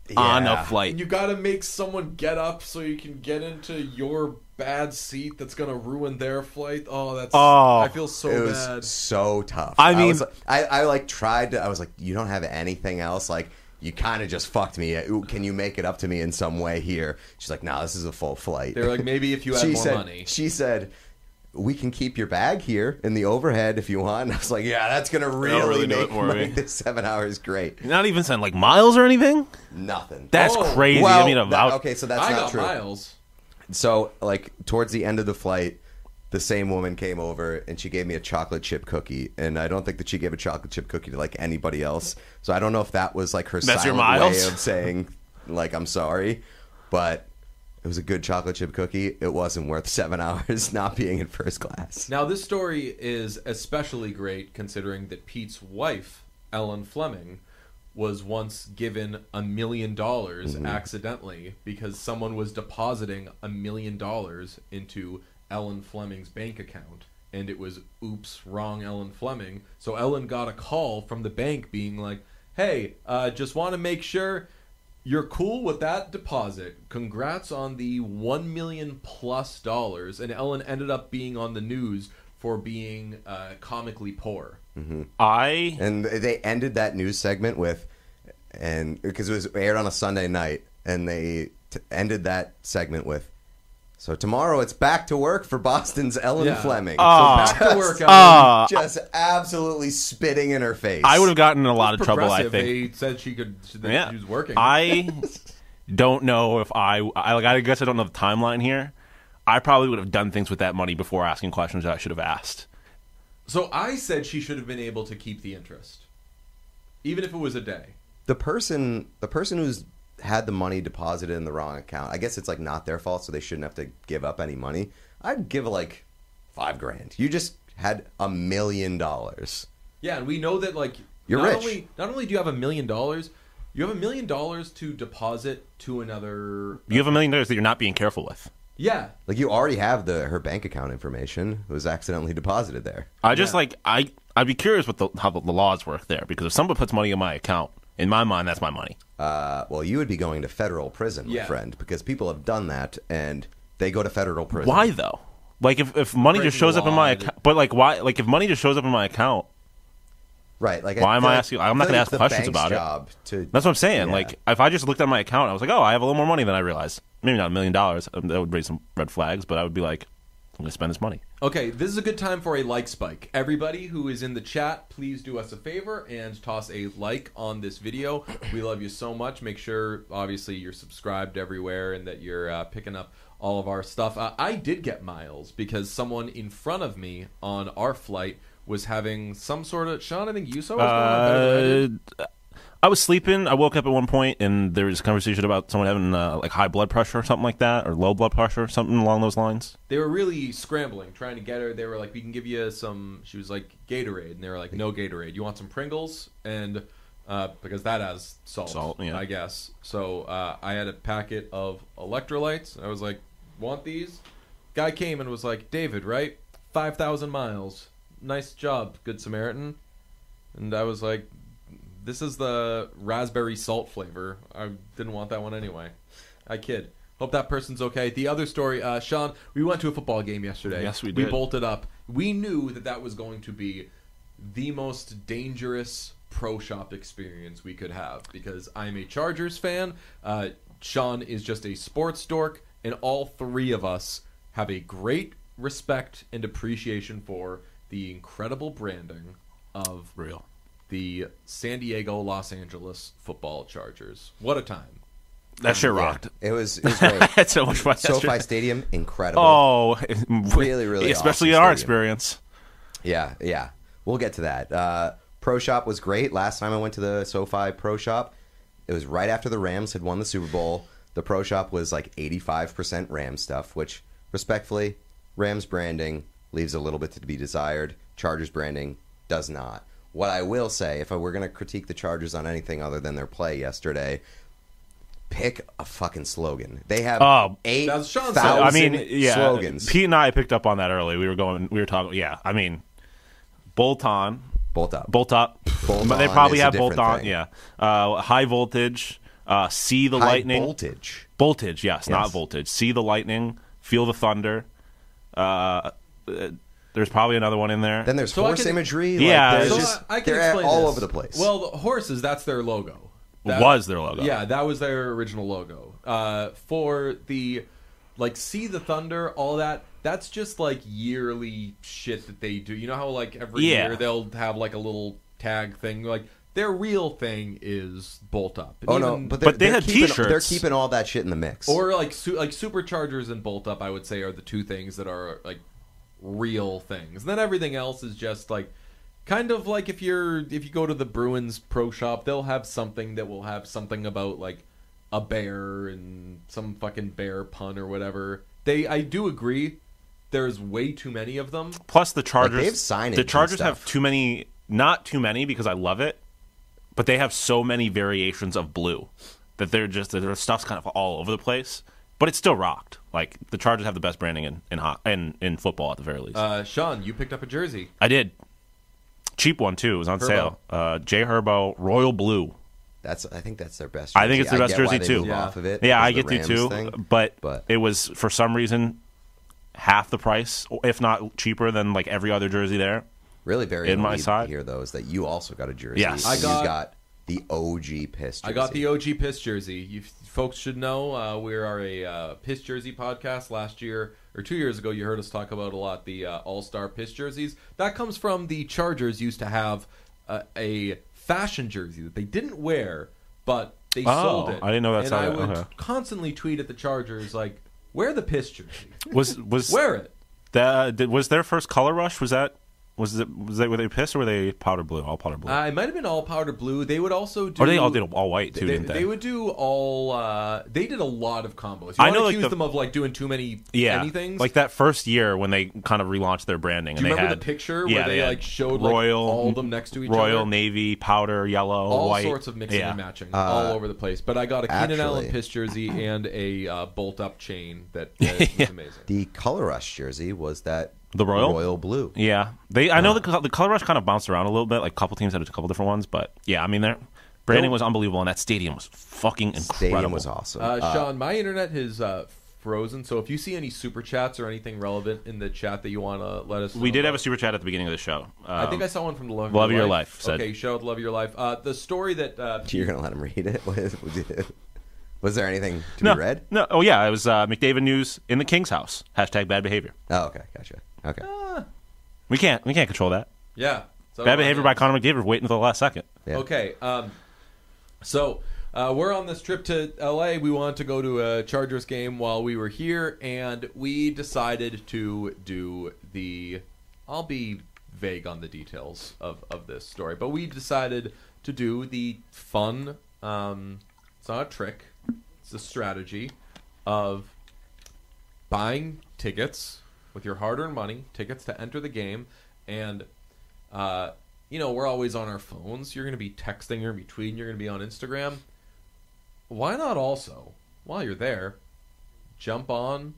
on Yeah. a flight. And you got to make someone get up so you can get into your bad seat that's going to ruin their flight. Oh, that's... Oh. I feel so It was bad. so tough. I mean- was, I, I like tried to. I was like, you don't have anything else. Like, you kind of just fucked me. Ooh, can you make it up to me in some way here? She's like, nah, this is a full flight. They're like, maybe if you had she more said, money. She said, we can keep your bag here in the overhead if you want. And I was like, yeah, that's gonna really, really do make it for my- me. this seven hours great. Not even saying like miles or anything. Nothing. That's Oh, crazy. well, I mean, that- about okay, so that's I not got true. miles. So, like, towards the end of the flight, the same woman came over and she gave me a chocolate chip cookie. And I don't think that she gave a chocolate chip cookie to, like, anybody else. So I don't know if that was, like, her That's your silent way miles? of saying, like, I'm sorry. But it was a good chocolate chip cookie. It wasn't worth seven hours not being in first class. Now, this story is especially great considering that Pete's wife, Ellen Fleming, was once given a million dollars accidentally because someone was depositing a million dollars into Ellen Fleming's bank account. And it was, oops, wrong Ellen Fleming. So Ellen got a call from the bank being like, hey, uh, just want to make sure you're cool with that deposit. Congrats on the one million plus dollars. And Ellen ended up being on the news for being uh, comically poor. I And they ended that news segment with, and because it was aired on a Sunday night, and they t- ended that segment with, so tomorrow it's back to work for Boston's Ellen Yeah. Fleming. Ah. So back to work, Ellen. Ah. Just absolutely spitting in her face. I would have gotten in a lot of trouble. I Progressive, think. they said she could. That Yeah, she was working. I don't know if I, I like. I guess I don't know the timeline here. I probably would have done things with that money before asking questions that I should have asked. so I said she should have been able to keep the interest, even if it was a day. the person, the person who's had the money deposited in the wrong account. I guess it's like not their fault, so they shouldn't have to give up any money. I'd give like five grand. You just had a million dollars. Yeah, and we know that like You're not rich. Only, not only do you have a million dollars, you have a million dollars to deposit to another. You have a million dollars that you're not being careful with. Yeah, Like you already have the her bank account information. It was accidentally deposited there. I just Yeah. like I. I'd be curious what the how the, the laws work there because if someone puts money in my account, in my mind, that's my money. Uh, well, you would be going to federal prison, my Yeah. friend, because people have done that and they go to federal prison. Why though? Like if, if money just Breaking shows the up in my law, account, but like why? Like if money just shows up in my account, Right? Like, Why am feel I like- asking- I'm not feel gonna like ask the questions bank's about it. job To, that's what I'm saying. Yeah. Like if I just looked at my account, I was like, oh, I have a little more money than I realized. Maybe not a million dollars. Um, That would raise some red flags, but I would be like, I'm gonna spend this money. Okay, this is a good time for a like spike. Everybody who is in the chat, please do us a favor and toss a like on this video. We love you so much. Make sure, obviously, you're subscribed everywhere and that you're uh, picking up all of our stuff. Uh, I did get miles because someone in front of me on our flight was having some sort of... Sean, I think you saw what's going on better than I did. Uh, I was sleeping. I woke up at one point, and there was a conversation about someone having uh, like high blood pressure or something like that, or low blood pressure, something along those lines. They were really scrambling, trying to get her. They were like, we can give you some... She was like, Gatorade. And they were like, no Gatorade. You want some Pringles? And... Uh, because that has salt, Salt, yeah. I guess. So uh, I had a packet of electrolytes. I was like, want these? Guy came and was like, David, right? five thousand miles. Nice job, Good Samaritan. And I was like, this is the raspberry salt flavor. I didn't want that one anyway. I kid. Hope that person's okay. The other story, uh, Sean, we went to a football game yesterday. Yes, we We did. bolted up. We knew that that was going to be the most dangerous pro shop experience we could have because I'm a Chargers fan. Uh, Sean is just a sports dork, and all three of us have a great respect and appreciation for the incredible branding of Real. the San Diego Los Angeles football Chargers. What a time. That shit rocked. It was, it was great. Had so much fun. SoFi yesterday. Stadium, incredible. Oh, Really, really especially awesome in our stadium. experience. Yeah, yeah. We'll get to that. Uh, Pro Shop was great. Last time I went to the SoFi Pro Shop, it was right after the Rams had won the Super Bowl. The Pro Shop was like eighty-five percent Rams stuff, which, respectfully, Rams branding leaves a little bit to be desired. Chargers branding does not. What I will say, if I were going to critique the Chargers on anything other than their play yesterday, pick a fucking slogan. They have Oh, eight that's Sean's thousand I mean, yeah. slogans. Pete and I picked up on that early. We were going. We were talking. Yeah. I mean, bolt on, Bolt up. bolt up. Bolt But they on probably is a have bolt different on. thing. Yeah. Uh, high voltage. Uh, see the High lightning. voltage. Voltage, yes, Yes. not voltage. See the lightning. Feel the thunder. Uh, uh, there's probably another one in there. Then there's So I horse can- imagery. Yeah, like, there's So it's just, I, I can they're explain all this. over the place. Well, the horses, that's their logo. That was their logo. Yeah, that was their original logo. Uh, for the, like, See the Thunder, all that, that's just, like, yearly shit that they do. You know how, like, every Yeah. year they'll have, like, a little tag thing? Like, their real thing is Bolt Up. And oh no, even- but, they're, But they they're had keeping, t-shirts. They're keeping all that shit in the mix. Or, like, su- like Superchargers and Bolt Up, I would say, are the two things that are, like, real things. And then everything else is just, like, kind of like if you're if you go to the Bruins pro shop, they'll have something that will have something about like a bear and some fucking bear pun or whatever. They I do agree there's way too many of them. Plus the Chargers. they have signage the and Chargers have stuff. too many. Not too many because I love it, but they have so many variations of blue that they're just their stuff's kind of all over the place. But it's still rocked. Like the Chargers have the best branding in in ho- in, in football at the very least. Uh, Sean, you picked up a jersey. I did. Cheap one too. It was on Herbo. sale. Uh, J Herbo Royal Blue. that's I think that's their best. Jersey. I think it's their best get why jersey, they too. move Yeah. Off of it. Yeah, I because get of to the too. Rams thing. But, but- it was for some reason half the price, if not cheaper than like every other jersey there. Really, very in my elite side. here though is that you also got a jersey. Yes. and I got- you got the O G piss. Jersey. I got the O G Piss jersey. You folks should know uh, we are a uh, Piss jersey podcast. Last year or two years ago, you heard us talk about a lot the uh, All Star Piss jerseys. That comes from the Chargers used to have uh, a fashion jersey that they didn't wear, but they Oh, sold it. I didn't know that's And how I that- would okay. constantly tweet at the Chargers like, "Wear the Piss jersey. Was was Wear it." that did, was their first color rush? Was that was it was they were they piss or were they powder blue? All powder blue. Uh, it might have been all powder blue. They would also do. or they all did all white too, They, didn't they? they would do all. Uh, they did a lot of combos. You I I know, know like, accuse the- them of like doing too many yeah, anythings. like that first year when they kind of relaunched their branding. Do you and they remember had the picture yeah, where they, had like showed like, royal, all of them next to each royal, other? navy, powder, yellow, all white, sorts of mixing yeah. and matching, Uh, all over the place. But I got a Keenan Allen actually- Piss jersey and a uh, bolt up chain that uh, was amazing. The Color Rush jersey was that The royal? royal blue. Yeah, they. I know the co- the color rush kind of bounced around a little bit. Like a couple teams had a couple different ones, but yeah, I mean their branding Nope. was unbelievable, and that stadium was fucking incredible. Stadium was awesome. Uh, Uh, Sean, my internet has uh, frozen, so if you see any super chats or anything relevant in the chat that you want to let us know We did have a about- super chat at the beginning of the show. I think Um, I saw one from the Love, Love of Your Your Life said- Okay, shout out to Love of Your Life. Uh, the story that uh, You're gonna let him read it? Was there anything to no, be read? no. Oh yeah, it was uh, McDavid news in the King's house. Hashtag bad behavior. Oh, okay, gotcha. Okay. Ah, We can't. We can't control that. yeah. So Bad on behavior it. by Connor McDavid. Waiting until the last second. Yeah. Okay. Um, so uh, we're on this trip to L A. We wanted to go to a Chargers game while we were here, and we decided to do the. I'll be vague on the details of, of this story, but we decided to do the fun. Um, it's not a trick. It's a strategy of buying tickets with your hard-earned money, tickets to enter the game, and uh, you know, we're always on our phones. You're going to be texting, you're going to be tweeting, you're going to be on Instagram. Why not also, while you're there, jump on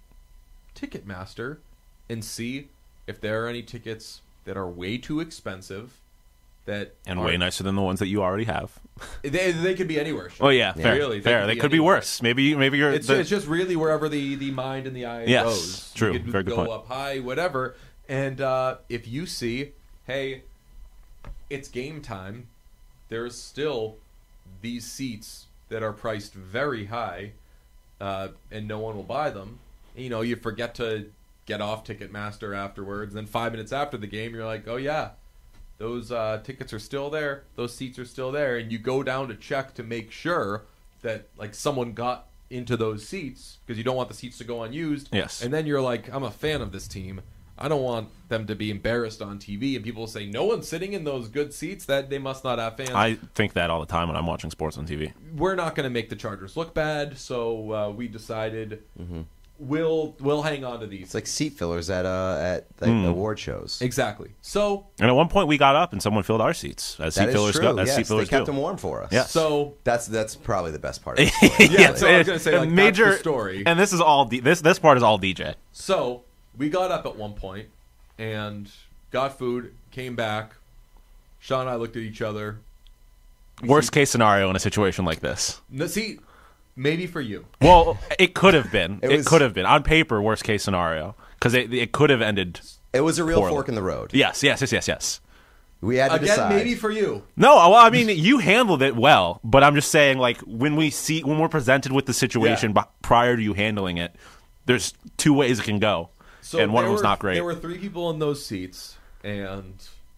Ticketmaster and see if there are any tickets that are way too expensive that And are- way nicer than the ones that you already have. They, they could be anywhere. Sean. Oh yeah, fair. Really, fair. They could be anywhere. worse. Maybe. Maybe you're. It's, the- it's just really wherever the, the mind and the eye Yes, goes. true. You could Very good go point. up high, whatever. And uh, if you see, hey, it's game time, there's still these seats that are priced very high, uh, and no one will buy them. You know, you forget to get off Ticketmaster afterwards, and then five minutes after the game, you're like, oh yeah, those uh, tickets are still there, those seats are still there, and you go down to check to make sure that like someone got into those seats because you don't want the seats to go unused. Yes. And then you're like, I'm a fan of this team. I don't want them to be embarrassed on T V, and people say no one's sitting in those good seats. That they must not have fans. I think that all the time when I'm watching sports on T V. We're not going to make the Chargers look bad, so uh, we decided Mm-hmm. we'll we'll hang on to these. It's like seat fillers at uh at like, Hmm. award shows. Exactly. So And at one point we got up and someone filled our seats as That seat is fillers true. go. As yes, seat fillers they kept do. them warm for us. Yeah. so That's that's probably the best part of the story. Yeah, so I was gonna say, like, that's the story. And this is all D- this this part is all D J. So we got up at one point and got food, came back. Sean and I looked at each other. Worst case scenario in a situation like this. No, see, maybe for you. Well, it could have been. It It, was- could have been on paper. Worst case scenario, because it it could have ended. It was a real Poorly. fork in the road. Yes, yes, yes, yes, yes. We had to Again, decide. maybe for you. No, well, I mean, you handled it well, but I'm just saying, like, when we see when we're presented with the situation Yeah. b- prior to you handling it, there's two ways it can go, So and one of there them's were- not great. There were three people in those seats, and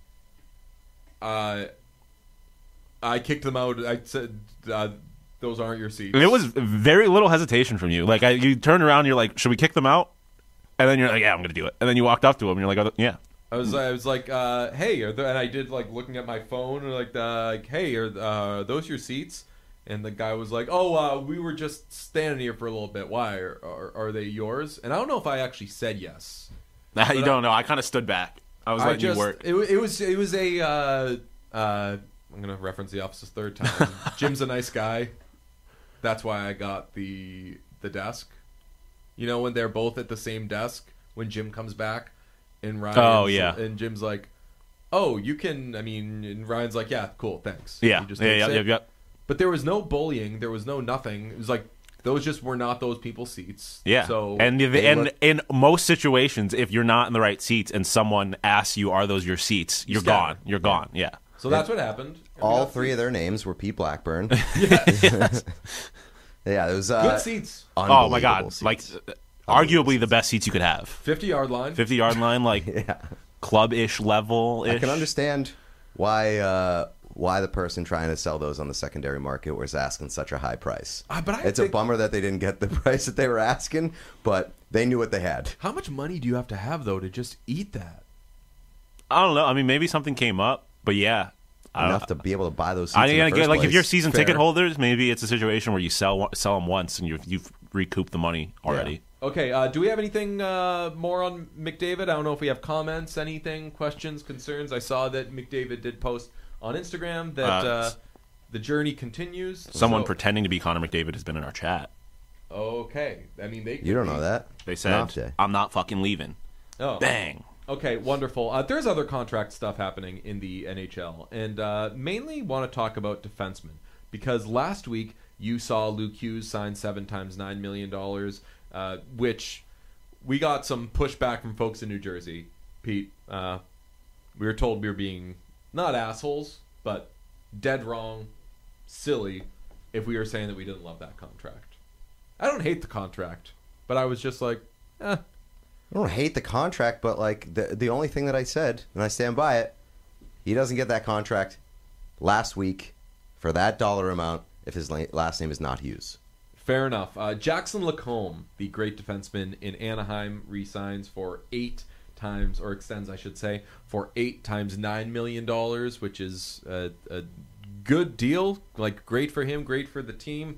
uh, I kicked them out. I said, uh, "Those aren't your seats." And it was very little hesitation from you. Like, I, you turned around, and you're like, "Should we kick them out?" And then you're like, "Yeah, I'm gonna do it." And then you walked up to him, and you're like, oh, "Yeah." I was, I was like, uh, "Hey," are the, and I did like looking at my phone, and like, uh, like, "Hey, are uh, those your seats?" And the guy was like, "Oh, uh, we were just standing here for a little bit. Why are, are, are they yours?" And I don't know if I actually said yes. you I- don't know. I kind of stood back. I was I letting just, you work. It, wa- it was it was a. Uh, uh, I'm gonna reference The Office's third time. Jim's a nice guy. That's why I got the the desk. You know, when they're both at the same desk when Jim comes back, and Ryan. Oh, yeah. And Jim's like, "Oh, you can." I mean, and Ryan's like, "Yeah, cool, thanks." Yeah, He just yeah, takes yeah, it. yeah, yeah. But there was no bullying. There was no nothing. It was like those just were not those people's seats. Yeah, So and the, they and look- in most situations, if you're not in the right seats and someone asks you, "Are those your seats?" You're scatter. gone. You're gone. Yeah. so that's what happened. And we All got three of seats. their names were Pete Blackburn. Yes. Yeah, it was uh, Good seats. Oh my God! unbelievable seats. Like, uh, arguably the best seats you could have. fifty yard line. Fifty yard line, like yeah. club-ish level. I can understand why uh, why the person trying to sell those on the secondary market was asking such a high price. Ah, but I it's think- a bummer that they didn't get the price that they were asking, but they knew what they had. How much money do you have to have though to just eat that? I don't know. I mean, maybe something came up, but yeah. I Enough don't- to be able to buy those seats. I in the mean, first again, like if place. you're season ticket Fair. holders, maybe it's a situation where you sell sell them once and you've you've recouped the money already. Okay, uh, do we have anything uh, more on McDavid? I don't know if we have comments, anything, questions, concerns. I saw that McDavid did post on Instagram that Uh, uh, the journey continues. Someone So- pretending to be Connor McDavid has been in our chat. Okay, I mean they. You don't know that. They Not said, today. "I'm not fucking leaving." Oh, Bang. Okay, wonderful. Uh, there's other contract stuff happening in the N H L, and uh, mainly want to talk about defensemen because last week you saw Luke Hughes sign seven times nine million dollars, uh, which we got some pushback from folks in New Jersey. Pete, uh, we were told we were being not assholes, but dead wrong, silly, if we were saying that we didn't love that contract. I don't hate the contract, but I was just like, eh. I don't hate the contract, but like the the only thing that I said, and I stand by it, he doesn't get that contract last week for that dollar amount if his la- last name is not Hughes. Fair enough. Uh, Jackson Lacombe, the great defenseman in Anaheim, re-signs for eight times, or extends, I should say, for eight times nine million dollars, which is a, a good deal. Like, great for him, great for the team.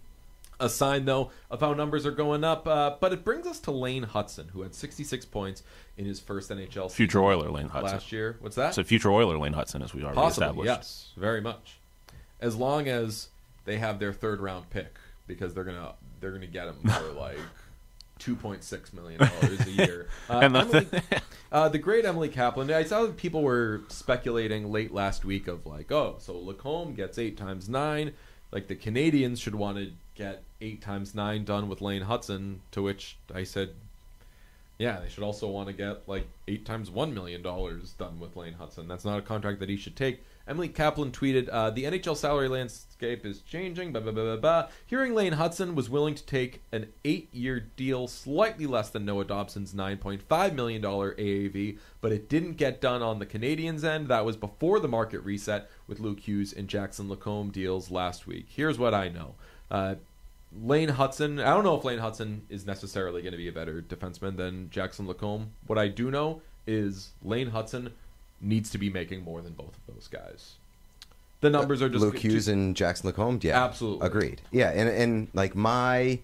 A sign, though, of how numbers are going up. Uh, but it brings us to Lane Hudson, who had sixty-six points in his first N H L season Future Oiler Lane Hudson. last year. What's that? So future Oiler Lane Hudson, as we already Possibly, established. yes, very much. As long as they have their third round pick, because they're gonna they're gonna get him for like two point six million dollars a year. Uh, And the- Emily, uh, the great Emily Kaplan. I saw that people were speculating late last week of like, oh, so Lacombe gets eight times nine. Like the Canadians should want to get eight times nine done with Lane Hudson. To which I said, yeah, they should also want to get like eight times one million dollars done with Lane Hudson. That's not a contract that he should take. Emily Kaplan tweeted, uh, "The N H L salary landscape is changing. Blah blah blah blah blah. Hearing Lane Hudson was willing to take an eight-year deal, slightly less than Noah Dobson's nine point five million dollar A A V, but it didn't get done on the Canadians' end. That was before the market reset with Luke Hughes and Jackson Lacombe deals last week. Here's what I know." Uh, Lane Hudson, I don't know if Lane Hudson is necessarily going to be a better defenseman than Jackson Lacombe. What I do know is Lane Hudson needs to be making more than both of those guys. The numbers are just... Luke Hughes and Jackson Lacombe, yeah, Absolutely. agreed. Yeah, and and like my,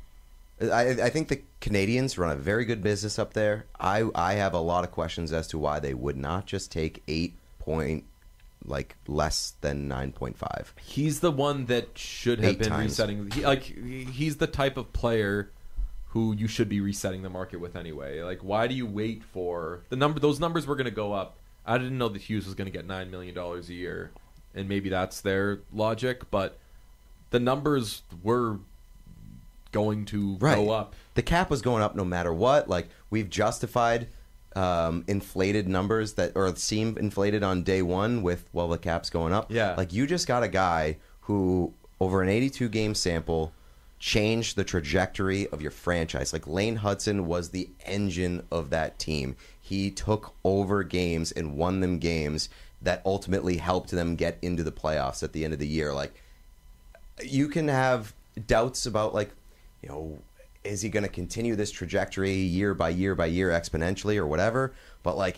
I I think the Canadians run a very good business up there. I I have a lot of questions as to why they would not just take eight point, like less than nine point five. He's the one that should have Eight been times. resetting. He, like he's the type of player who you should be resetting the market with anyway. Like, why do you wait for the number? Those numbers were going to go up. I didn't know that Hughes was going to get nine million dollars a year. and maybe that's their logic, but the numbers were going to Right. go up. The cap was going up no matter what. Like, we've justified um, inflated numbers that or seem inflated on day one with, well, the cap's going up. Yeah. Like, you just got a guy who, over an eighty-two game sample, changed the trajectory of your franchise. Like, Lane Hudson was the engine of that team. He took over games and won them games that ultimately helped them get into the playoffs at the end of the year. Like, you can have doubts about, like, you know, is he going to continue this trajectory year by year by year exponentially or whatever? But, like,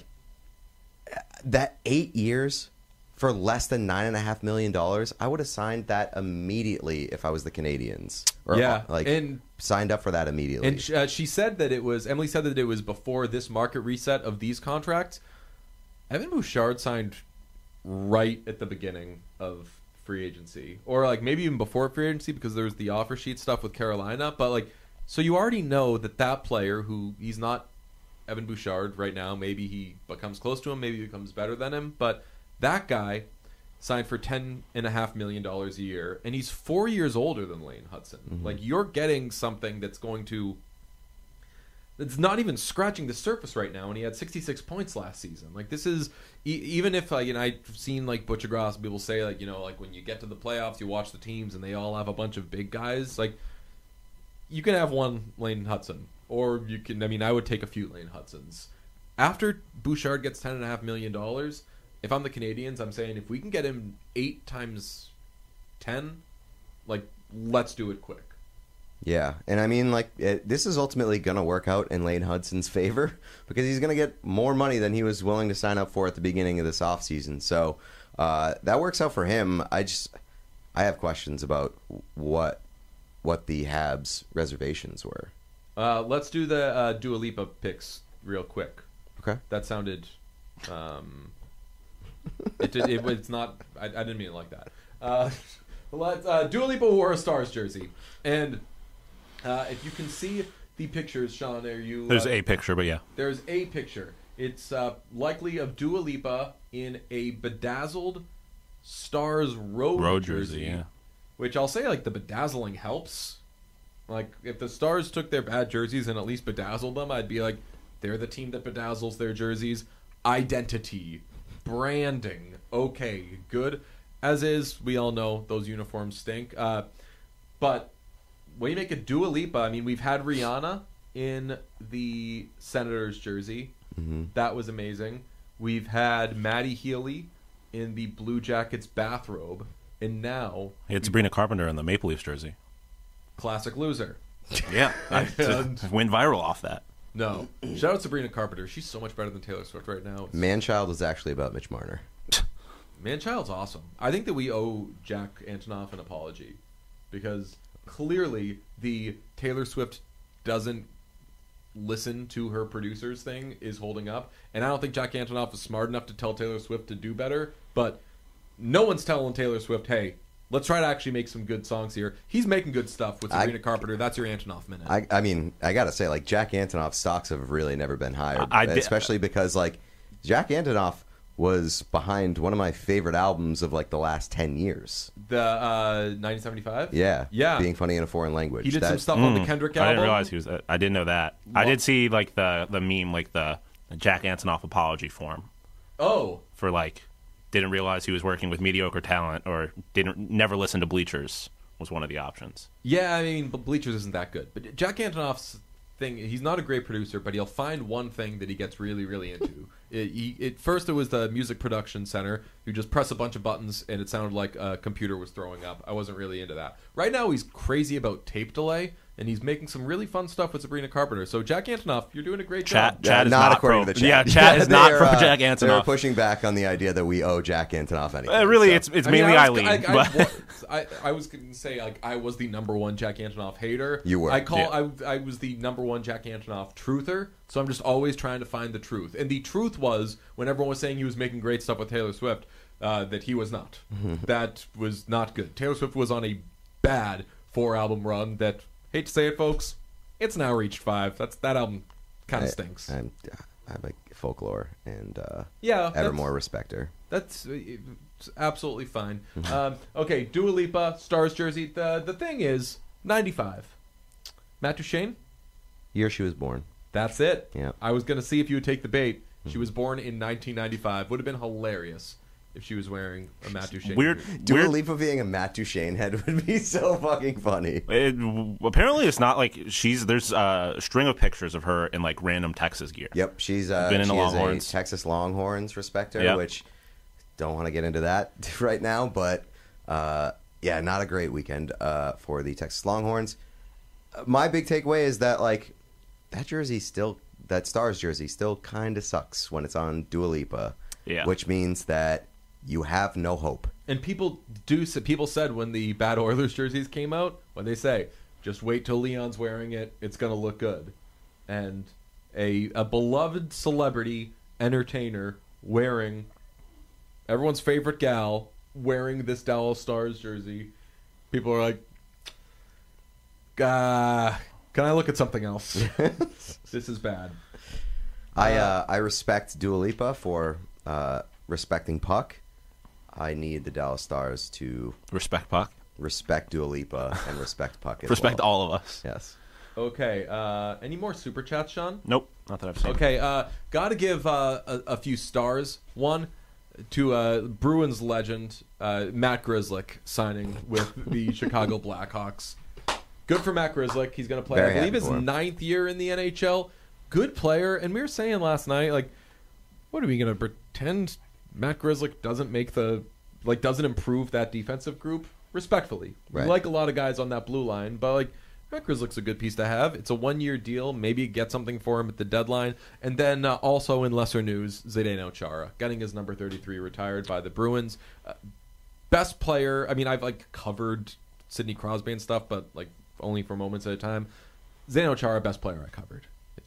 that eight years for less than nine and a half million dollars, I would have signed that immediately if I was the Canadians. Or, Yeah, like, and- signed up for that immediately. And uh, she said that it was, Emily said that it was before this market reset of these contracts. Evan Bouchard signed right at the beginning of free agency, or like maybe even before free agency, because there was the offer sheet stuff with Carolina. But like, so you already know that that player, who he's not Evan Bouchard right now, maybe he becomes close to him, maybe he becomes better than him, but that guy signed for ten and a half million dollars a year, and he's four years older than Lane Hudson. Mm-hmm. Like, you're getting something that's going to, it's not even scratching the surface right now, and he had sixty-six points last season. Like, this is, e- even if, like, and I've seen, like, Butcher Gross, people say, like, you know, like, when you get to the playoffs, you watch the teams, and they all have a bunch of big guys. Like, you can have one Lane Hudson, or you can, I mean, I would take a few Lane Hudsons. After Bouchard gets ten and a half million dollars, if I'm the Canadians, I'm saying if we can get him eight times ten, like, let's do it quick. Yeah, and I mean, like, it, this is ultimately going to work out in Lane Hudson's favor because he's going to get more money than he was willing to sign up for at the beginning of this offseason. So uh, that works out for him. I just, I have questions about what what the Habs reservations were. Uh, let's do the uh, Dua Lipa picks real quick. Okay. That sounded, um, it, did, it it's not. I, I didn't mean it like that. Uh, let's uh, Dua Lipa wore a Stars jersey, and uh, if you can see the pictures, Sean, are you? There's uh, a picture, but yeah. There's a picture. It's uh, likely of Dua Lipa in a bedazzled Stars road, Road jersey, jersey, yeah. Which I'll say, like, the bedazzling helps. Like, if the Stars took their bad jerseys and at least bedazzled them, I'd be like, they're the team that bedazzles their jerseys. Identity, branding, okay, good. As is, we all know those uniforms stink. Uh, but when you make a Dua Lipa, I mean, we've had Rihanna in the Senators jersey. Mm-hmm. That was amazing. We've had Maddie Healy in the Blue Jackets bathrobe. And now, It's Sabrina Carpenter in the Maple Leafs jersey. classic loser. Yeah. I, And- I went viral off that. No. Shout out Sabrina Carpenter. She's so much better than Taylor Swift right now. It's, Manchild was actually about Mitch Marner. Manchild's awesome. I think that we owe Jack Antonoff an apology because clearly the Taylor Swift doesn't listen to her producers thing is holding up. And I don't think Jack Antonoff is smart enough to tell Taylor Swift to do better. But no one's telling Taylor Swift, hey, let's try to actually make some good songs here. He's making good stuff with Sabrina I- Carpenter. That's your Antonoff minute. I, I mean, I gotta say, like, Jack Antonoff's stocks have really never been higher, I- I did- especially because, like, Jack Antonoff was behind one of my favorite albums of like the last ten years. the uh, nineteen seventy-five? Yeah, Yeah. Being funny in a foreign language. He did That- some stuff on the Mm, Kendrick I album. didn't realize he was. I didn't know that. I did see like the the meme, like the, the Jack Antonoff apology form Oh, for like didn't realize he was working with mediocre talent or didn't never listen to Bleachers was one of the options. yeah, I mean, but Bleachers isn't that good. But Jack Antonoff's thing, he's not a great producer, but he'll find one thing that he gets really, really into. it, he, it First, it was the Music Production Center. You just press a bunch of buttons, and it sounded like a computer was throwing up. I wasn't really into that. Right now, he's crazy about tape delay, and he's making some really fun stuff with Sabrina Carpenter. So, Jack Antonoff, you're doing a great Chat, job. Chad Yeah, is not not according pro. to the chat. Yeah, Chad is not They're, pro uh, Jack They're Antonoff. pushing back on the idea that we owe Jack Antonoff anything. Uh, really, so. it's it's I mean, mainly I was, Eileen. I, I, but- was- I, I was going to say, like, I was the number one Jack Antonoff hater. You were. I call Yeah. I, I was the number one Jack Antonoff truther. So I'm just always trying to find the truth. And the truth was, when everyone was saying he was making great stuff with Taylor Swift, uh, that he was not. That was not good. Taylor Swift was on a bad four album run. That, hate to say it, folks, it's now reached five. That's that album kind I- of stinks. I'm- I like Folklore and uh, Yeah, Evermore that's- respect her. That's uh, it's absolutely fine. um, okay, Dua Lipa, Stars jersey. The the thing is, ninety-five. Matt Duchene, Year she was born. that's it. Yeah. I was going to see if you would take the bait. She was born in nineteen ninety-five. Would have been hilarious if she was wearing a Matt Duchene Weird. jersey. Dua weird. Lipa being a Matt Duchene head would be so fucking funny. It, apparently, it's not like she's. There's a string of pictures of her in like random Texas gear. Yep, she's uh, Been in she the is Longhorns. a Texas Longhorns respecter, Yep. which don't want to get into that right now, but uh, yeah, not a great weekend uh, for the Texas Longhorns. Uh, my big takeaway is that like that jersey still, that Stars jersey still kind of sucks when it's on Dua Lipa, Yeah. which means that you have no hope. And people do. People said when the bad Oilers jerseys came out, when they say, "Just wait till Leon's wearing it; it's gonna look good," and a a beloved celebrity entertainer wearing everyone's favorite gal wearing this Dallas Stars jersey, people are like, uh, "Can I look at something else? This is bad." I uh, I respect Dua Lipa for uh, respecting Puck. I need the Dallas Stars to Respect Puck. respect Dua Lipa and respect Puck as Respect well. all of us. Yes. Okay. Uh, any more super chats, Sean? Nope, not that I've seen. Okay, uh, got to give uh, a, a few stars. One to uh, Bruins legend uh, Matt Grzelcyk signing with the Chicago Blackhawks. Good for Matt Grzelcyk. He's going to play, Very I believe, happy his for him. ninth year in the N H L. Good player. And we were saying last night, like, what are we going to pretend Matt Grzelcyk doesn't make the, like, doesn't improve that defensive group? Respectfully, Right. we like a lot of guys on that blue line, but like. Matt Grzelcyk's a good piece to have. It's a one-year deal. Maybe get something for him at the deadline. And then uh, also in lesser news, Zdeno Chara getting his number thirty-three retired by the Bruins. Uh, best player. I mean, I've like covered Sidney Crosby and stuff, but like only for moments at a time. Zdeno Chara, best player I covered.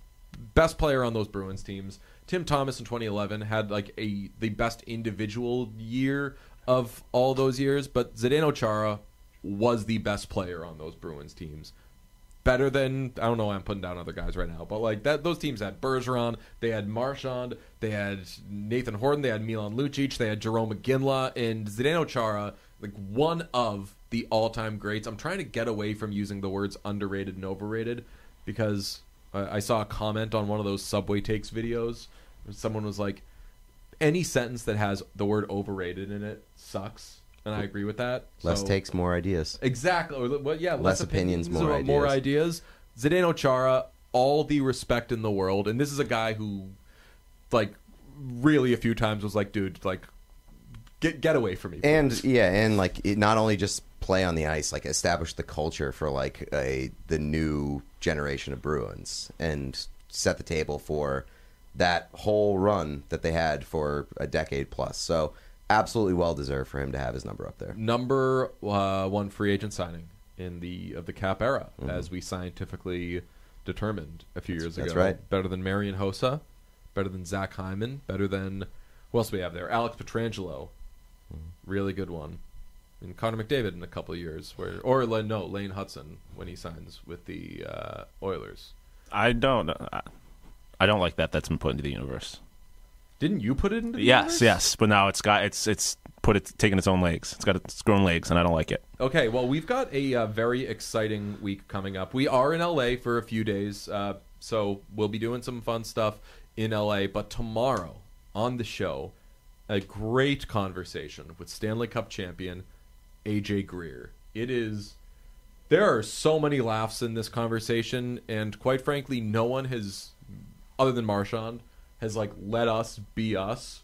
Best player on those Bruins teams. Tim Thomas in twenty eleven had like a the best individual year of all those years, but Zdeno Chara was the best player on those Bruins teams. Better than, I don't know why I'm putting down other guys right now, but like that, those teams had Bergeron, they had Marchand, they had Nathan Horton, they had Milan Lucic, they had Jerome McGinley, and Zdeno Chara, like one of the all-time greats. I'm trying to get away from using the words underrated and overrated because uh, I saw a comment on one of those Subway Takes videos where someone was like, any sentence that has the word overrated in it sucks, and I agree with that. Less So- takes, more ideas. Exactly. Or, well, yeah, less, Less opinions, more or more ideas. ideas. Zdeno Chara, all the respect in the world, and this is a guy who, like, really a few times was like, dude, like, get get away from me. And yeah, and like it not only just play on the ice, like establish the culture for like a the new generation of Bruins and set the table for that whole run that they had for a decade plus. So absolutely well deserved for him to have his number up there. Number uh, one free agent signing in the of the cap era, Mm-hmm. as we scientifically determined a few years that's ago. right. Better than Marian Hossa, better than Zach Hyman, better than who else we have there? Alex Pietrangelo, Mm-hmm. really good one. And Connor McDavid in a couple of years, where or no Lane Hudson when he signs with the uh, Oilers. I don't. I, I don't like that. That's been put into the universe. Didn't you put it into the Yes, universe? yes, but now it's got it's it's put it taking its own legs. It's got its grown legs, and I don't like it. Okay, well, we've got a uh, very exciting week coming up. We are in L A for a few days, uh, so we'll be doing some fun stuff in L A. But tomorrow on the show, a great conversation with Stanley Cup champion A J Greer. It is. There are so many laughs in this conversation, and quite frankly, no one has, other than Marchand, has like let us be us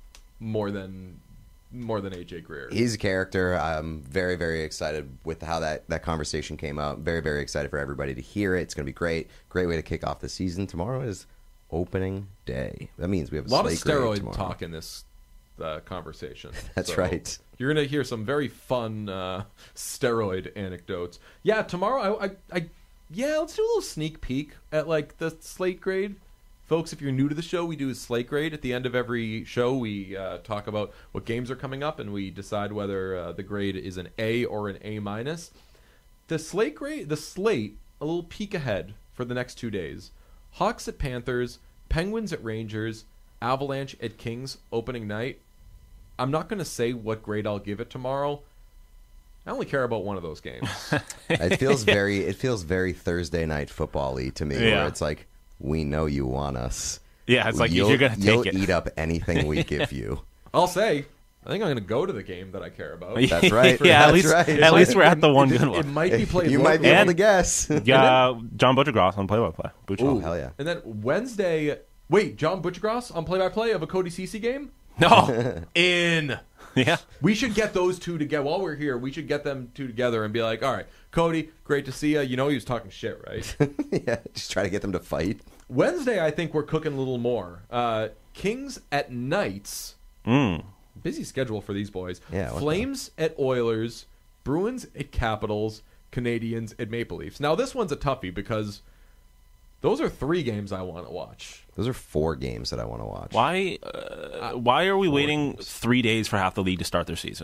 more than more than A J Greer. He's a character. I'm very, very excited with how that, that conversation came out. Very, very excited for everybody to hear it. It's going to be great. Great way to kick off the season. Tomorrow is opening day. That means we have a, A lot of slate grade steroid tomorrow. talk in this uh, conversation. That's So right. You're going to hear some very fun uh, steroid anecdotes. Yeah, tomorrow, I, I, I, yeah, let's do a little sneak peek at like the slate grade. Folks, if you're new to the show, we do a slate grade. At the end of every show, we uh, talk about what games are coming up, and we decide whether uh, the grade is an A or an A minus. The slate grade, the slate, a little peek ahead for the next two days. Hawks at Panthers, Penguins at Rangers, Avalanche at Kings opening night. I'm not going to say what grade I'll give it tomorrow. I only care about one of those games. It feels very it feels very Thursday night football-y to me, Yeah. where it's like, we know you want us. Yeah, it's like you'll, you're going to take you'll it. eat up anything we give you. I'll say, I think I'm going to go to the game that I care about. That's right. yeah, That's at least right. at least we're at the one it, good It one. might be played You might be locally. able to And- guess. Yeah, John Butchergross on play-by-play. Butcher. Oh, hell yeah. And then Wednesday, wait, John Butchergross on play-by-play of a Cody Cece game? No. In. Yeah. We should get those two together. While we're here, we should get them two together and be like, all right, Cody, great to see you. You know he was talking shit, right? Yeah, just try to get them to fight. Wednesday, I think we're cooking a little more. Uh, Kings at Knights. Mm. Busy schedule for these boys. Yeah, what Flames at Oilers. Bruins at Capitals. Canadians at Maple Leafs. Now, this one's a toughie because those are three games I want to watch. Those are four games that I want to watch. Why uh, why are we waiting three days for half the league to start their season?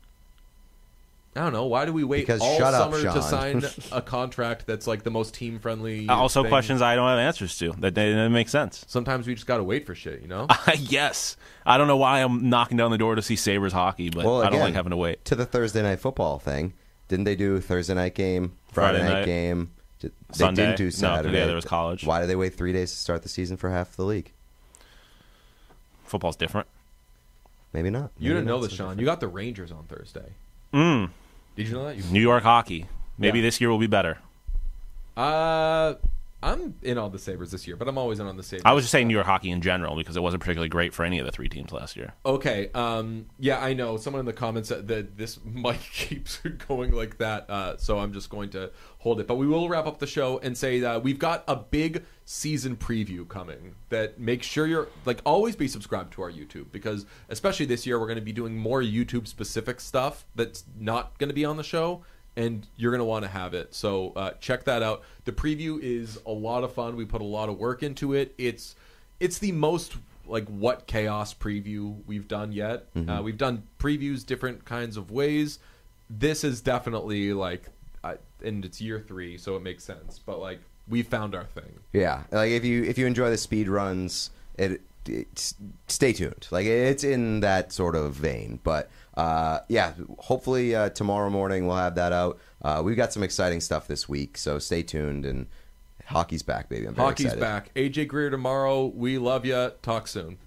I don't know. Why do we wait Because all shut up, summer to Sean. sign a contract that's like the most team-friendly Also, thing? questions I don't have answers to. That, that, that makes sense. Sometimes we just got to wait for shit, you know? Yes. I don't know why I'm knocking down the door to see Sabres hockey, but Well, I don't again, like having to wait. To the Thursday night football thing. Didn't they do Thursday night game, Friday, Friday night, night. game? They Sunday? didn't do No, Saturday. yeah, there was college. Why did they wait three days to start the season for half the league? Football's different. Maybe not. You Maybe didn't know not this, so Sean. different. You got the Rangers on Thursday. Mm. Did you know that? You, New York hockey. Maybe Yeah. this year will be better. uh, I'm in on the Sabres this year, but I'm always in on the Sabres. I was just saying New York hockey in general because it wasn't particularly great for any of the three teams last year. Okay. Um. Yeah, I know. Someone in the comments said that this mic keeps going like that, uh, so I'm just going to hold it. But we will wrap up the show and say that we've got a big season preview coming. That make sure you're like always be subscribed to our YouTube because especially this year we're going to be doing more YouTube specific stuff that's not going to be on the show. And you're going to want to have it. So uh, check that out. The preview is a lot of fun. We put a lot of work into it. It's it's the most like what chaos preview we've done yet. Mm-hmm. Uh, we've done previews different kinds of ways. This is definitely like, uh, and it's year three, so it makes sense. But like we found our thing. Yeah, like if you if you enjoy the speed runs, it, it stay tuned. Like it's in that sort of vein. But uh, yeah, hopefully uh, tomorrow morning we'll have that out. Uh, we've got some exciting stuff this week, so stay tuned. And hockey's back, baby. I'm very Hockey's excited. back. A J Greer tomorrow. We love ya. Talk soon.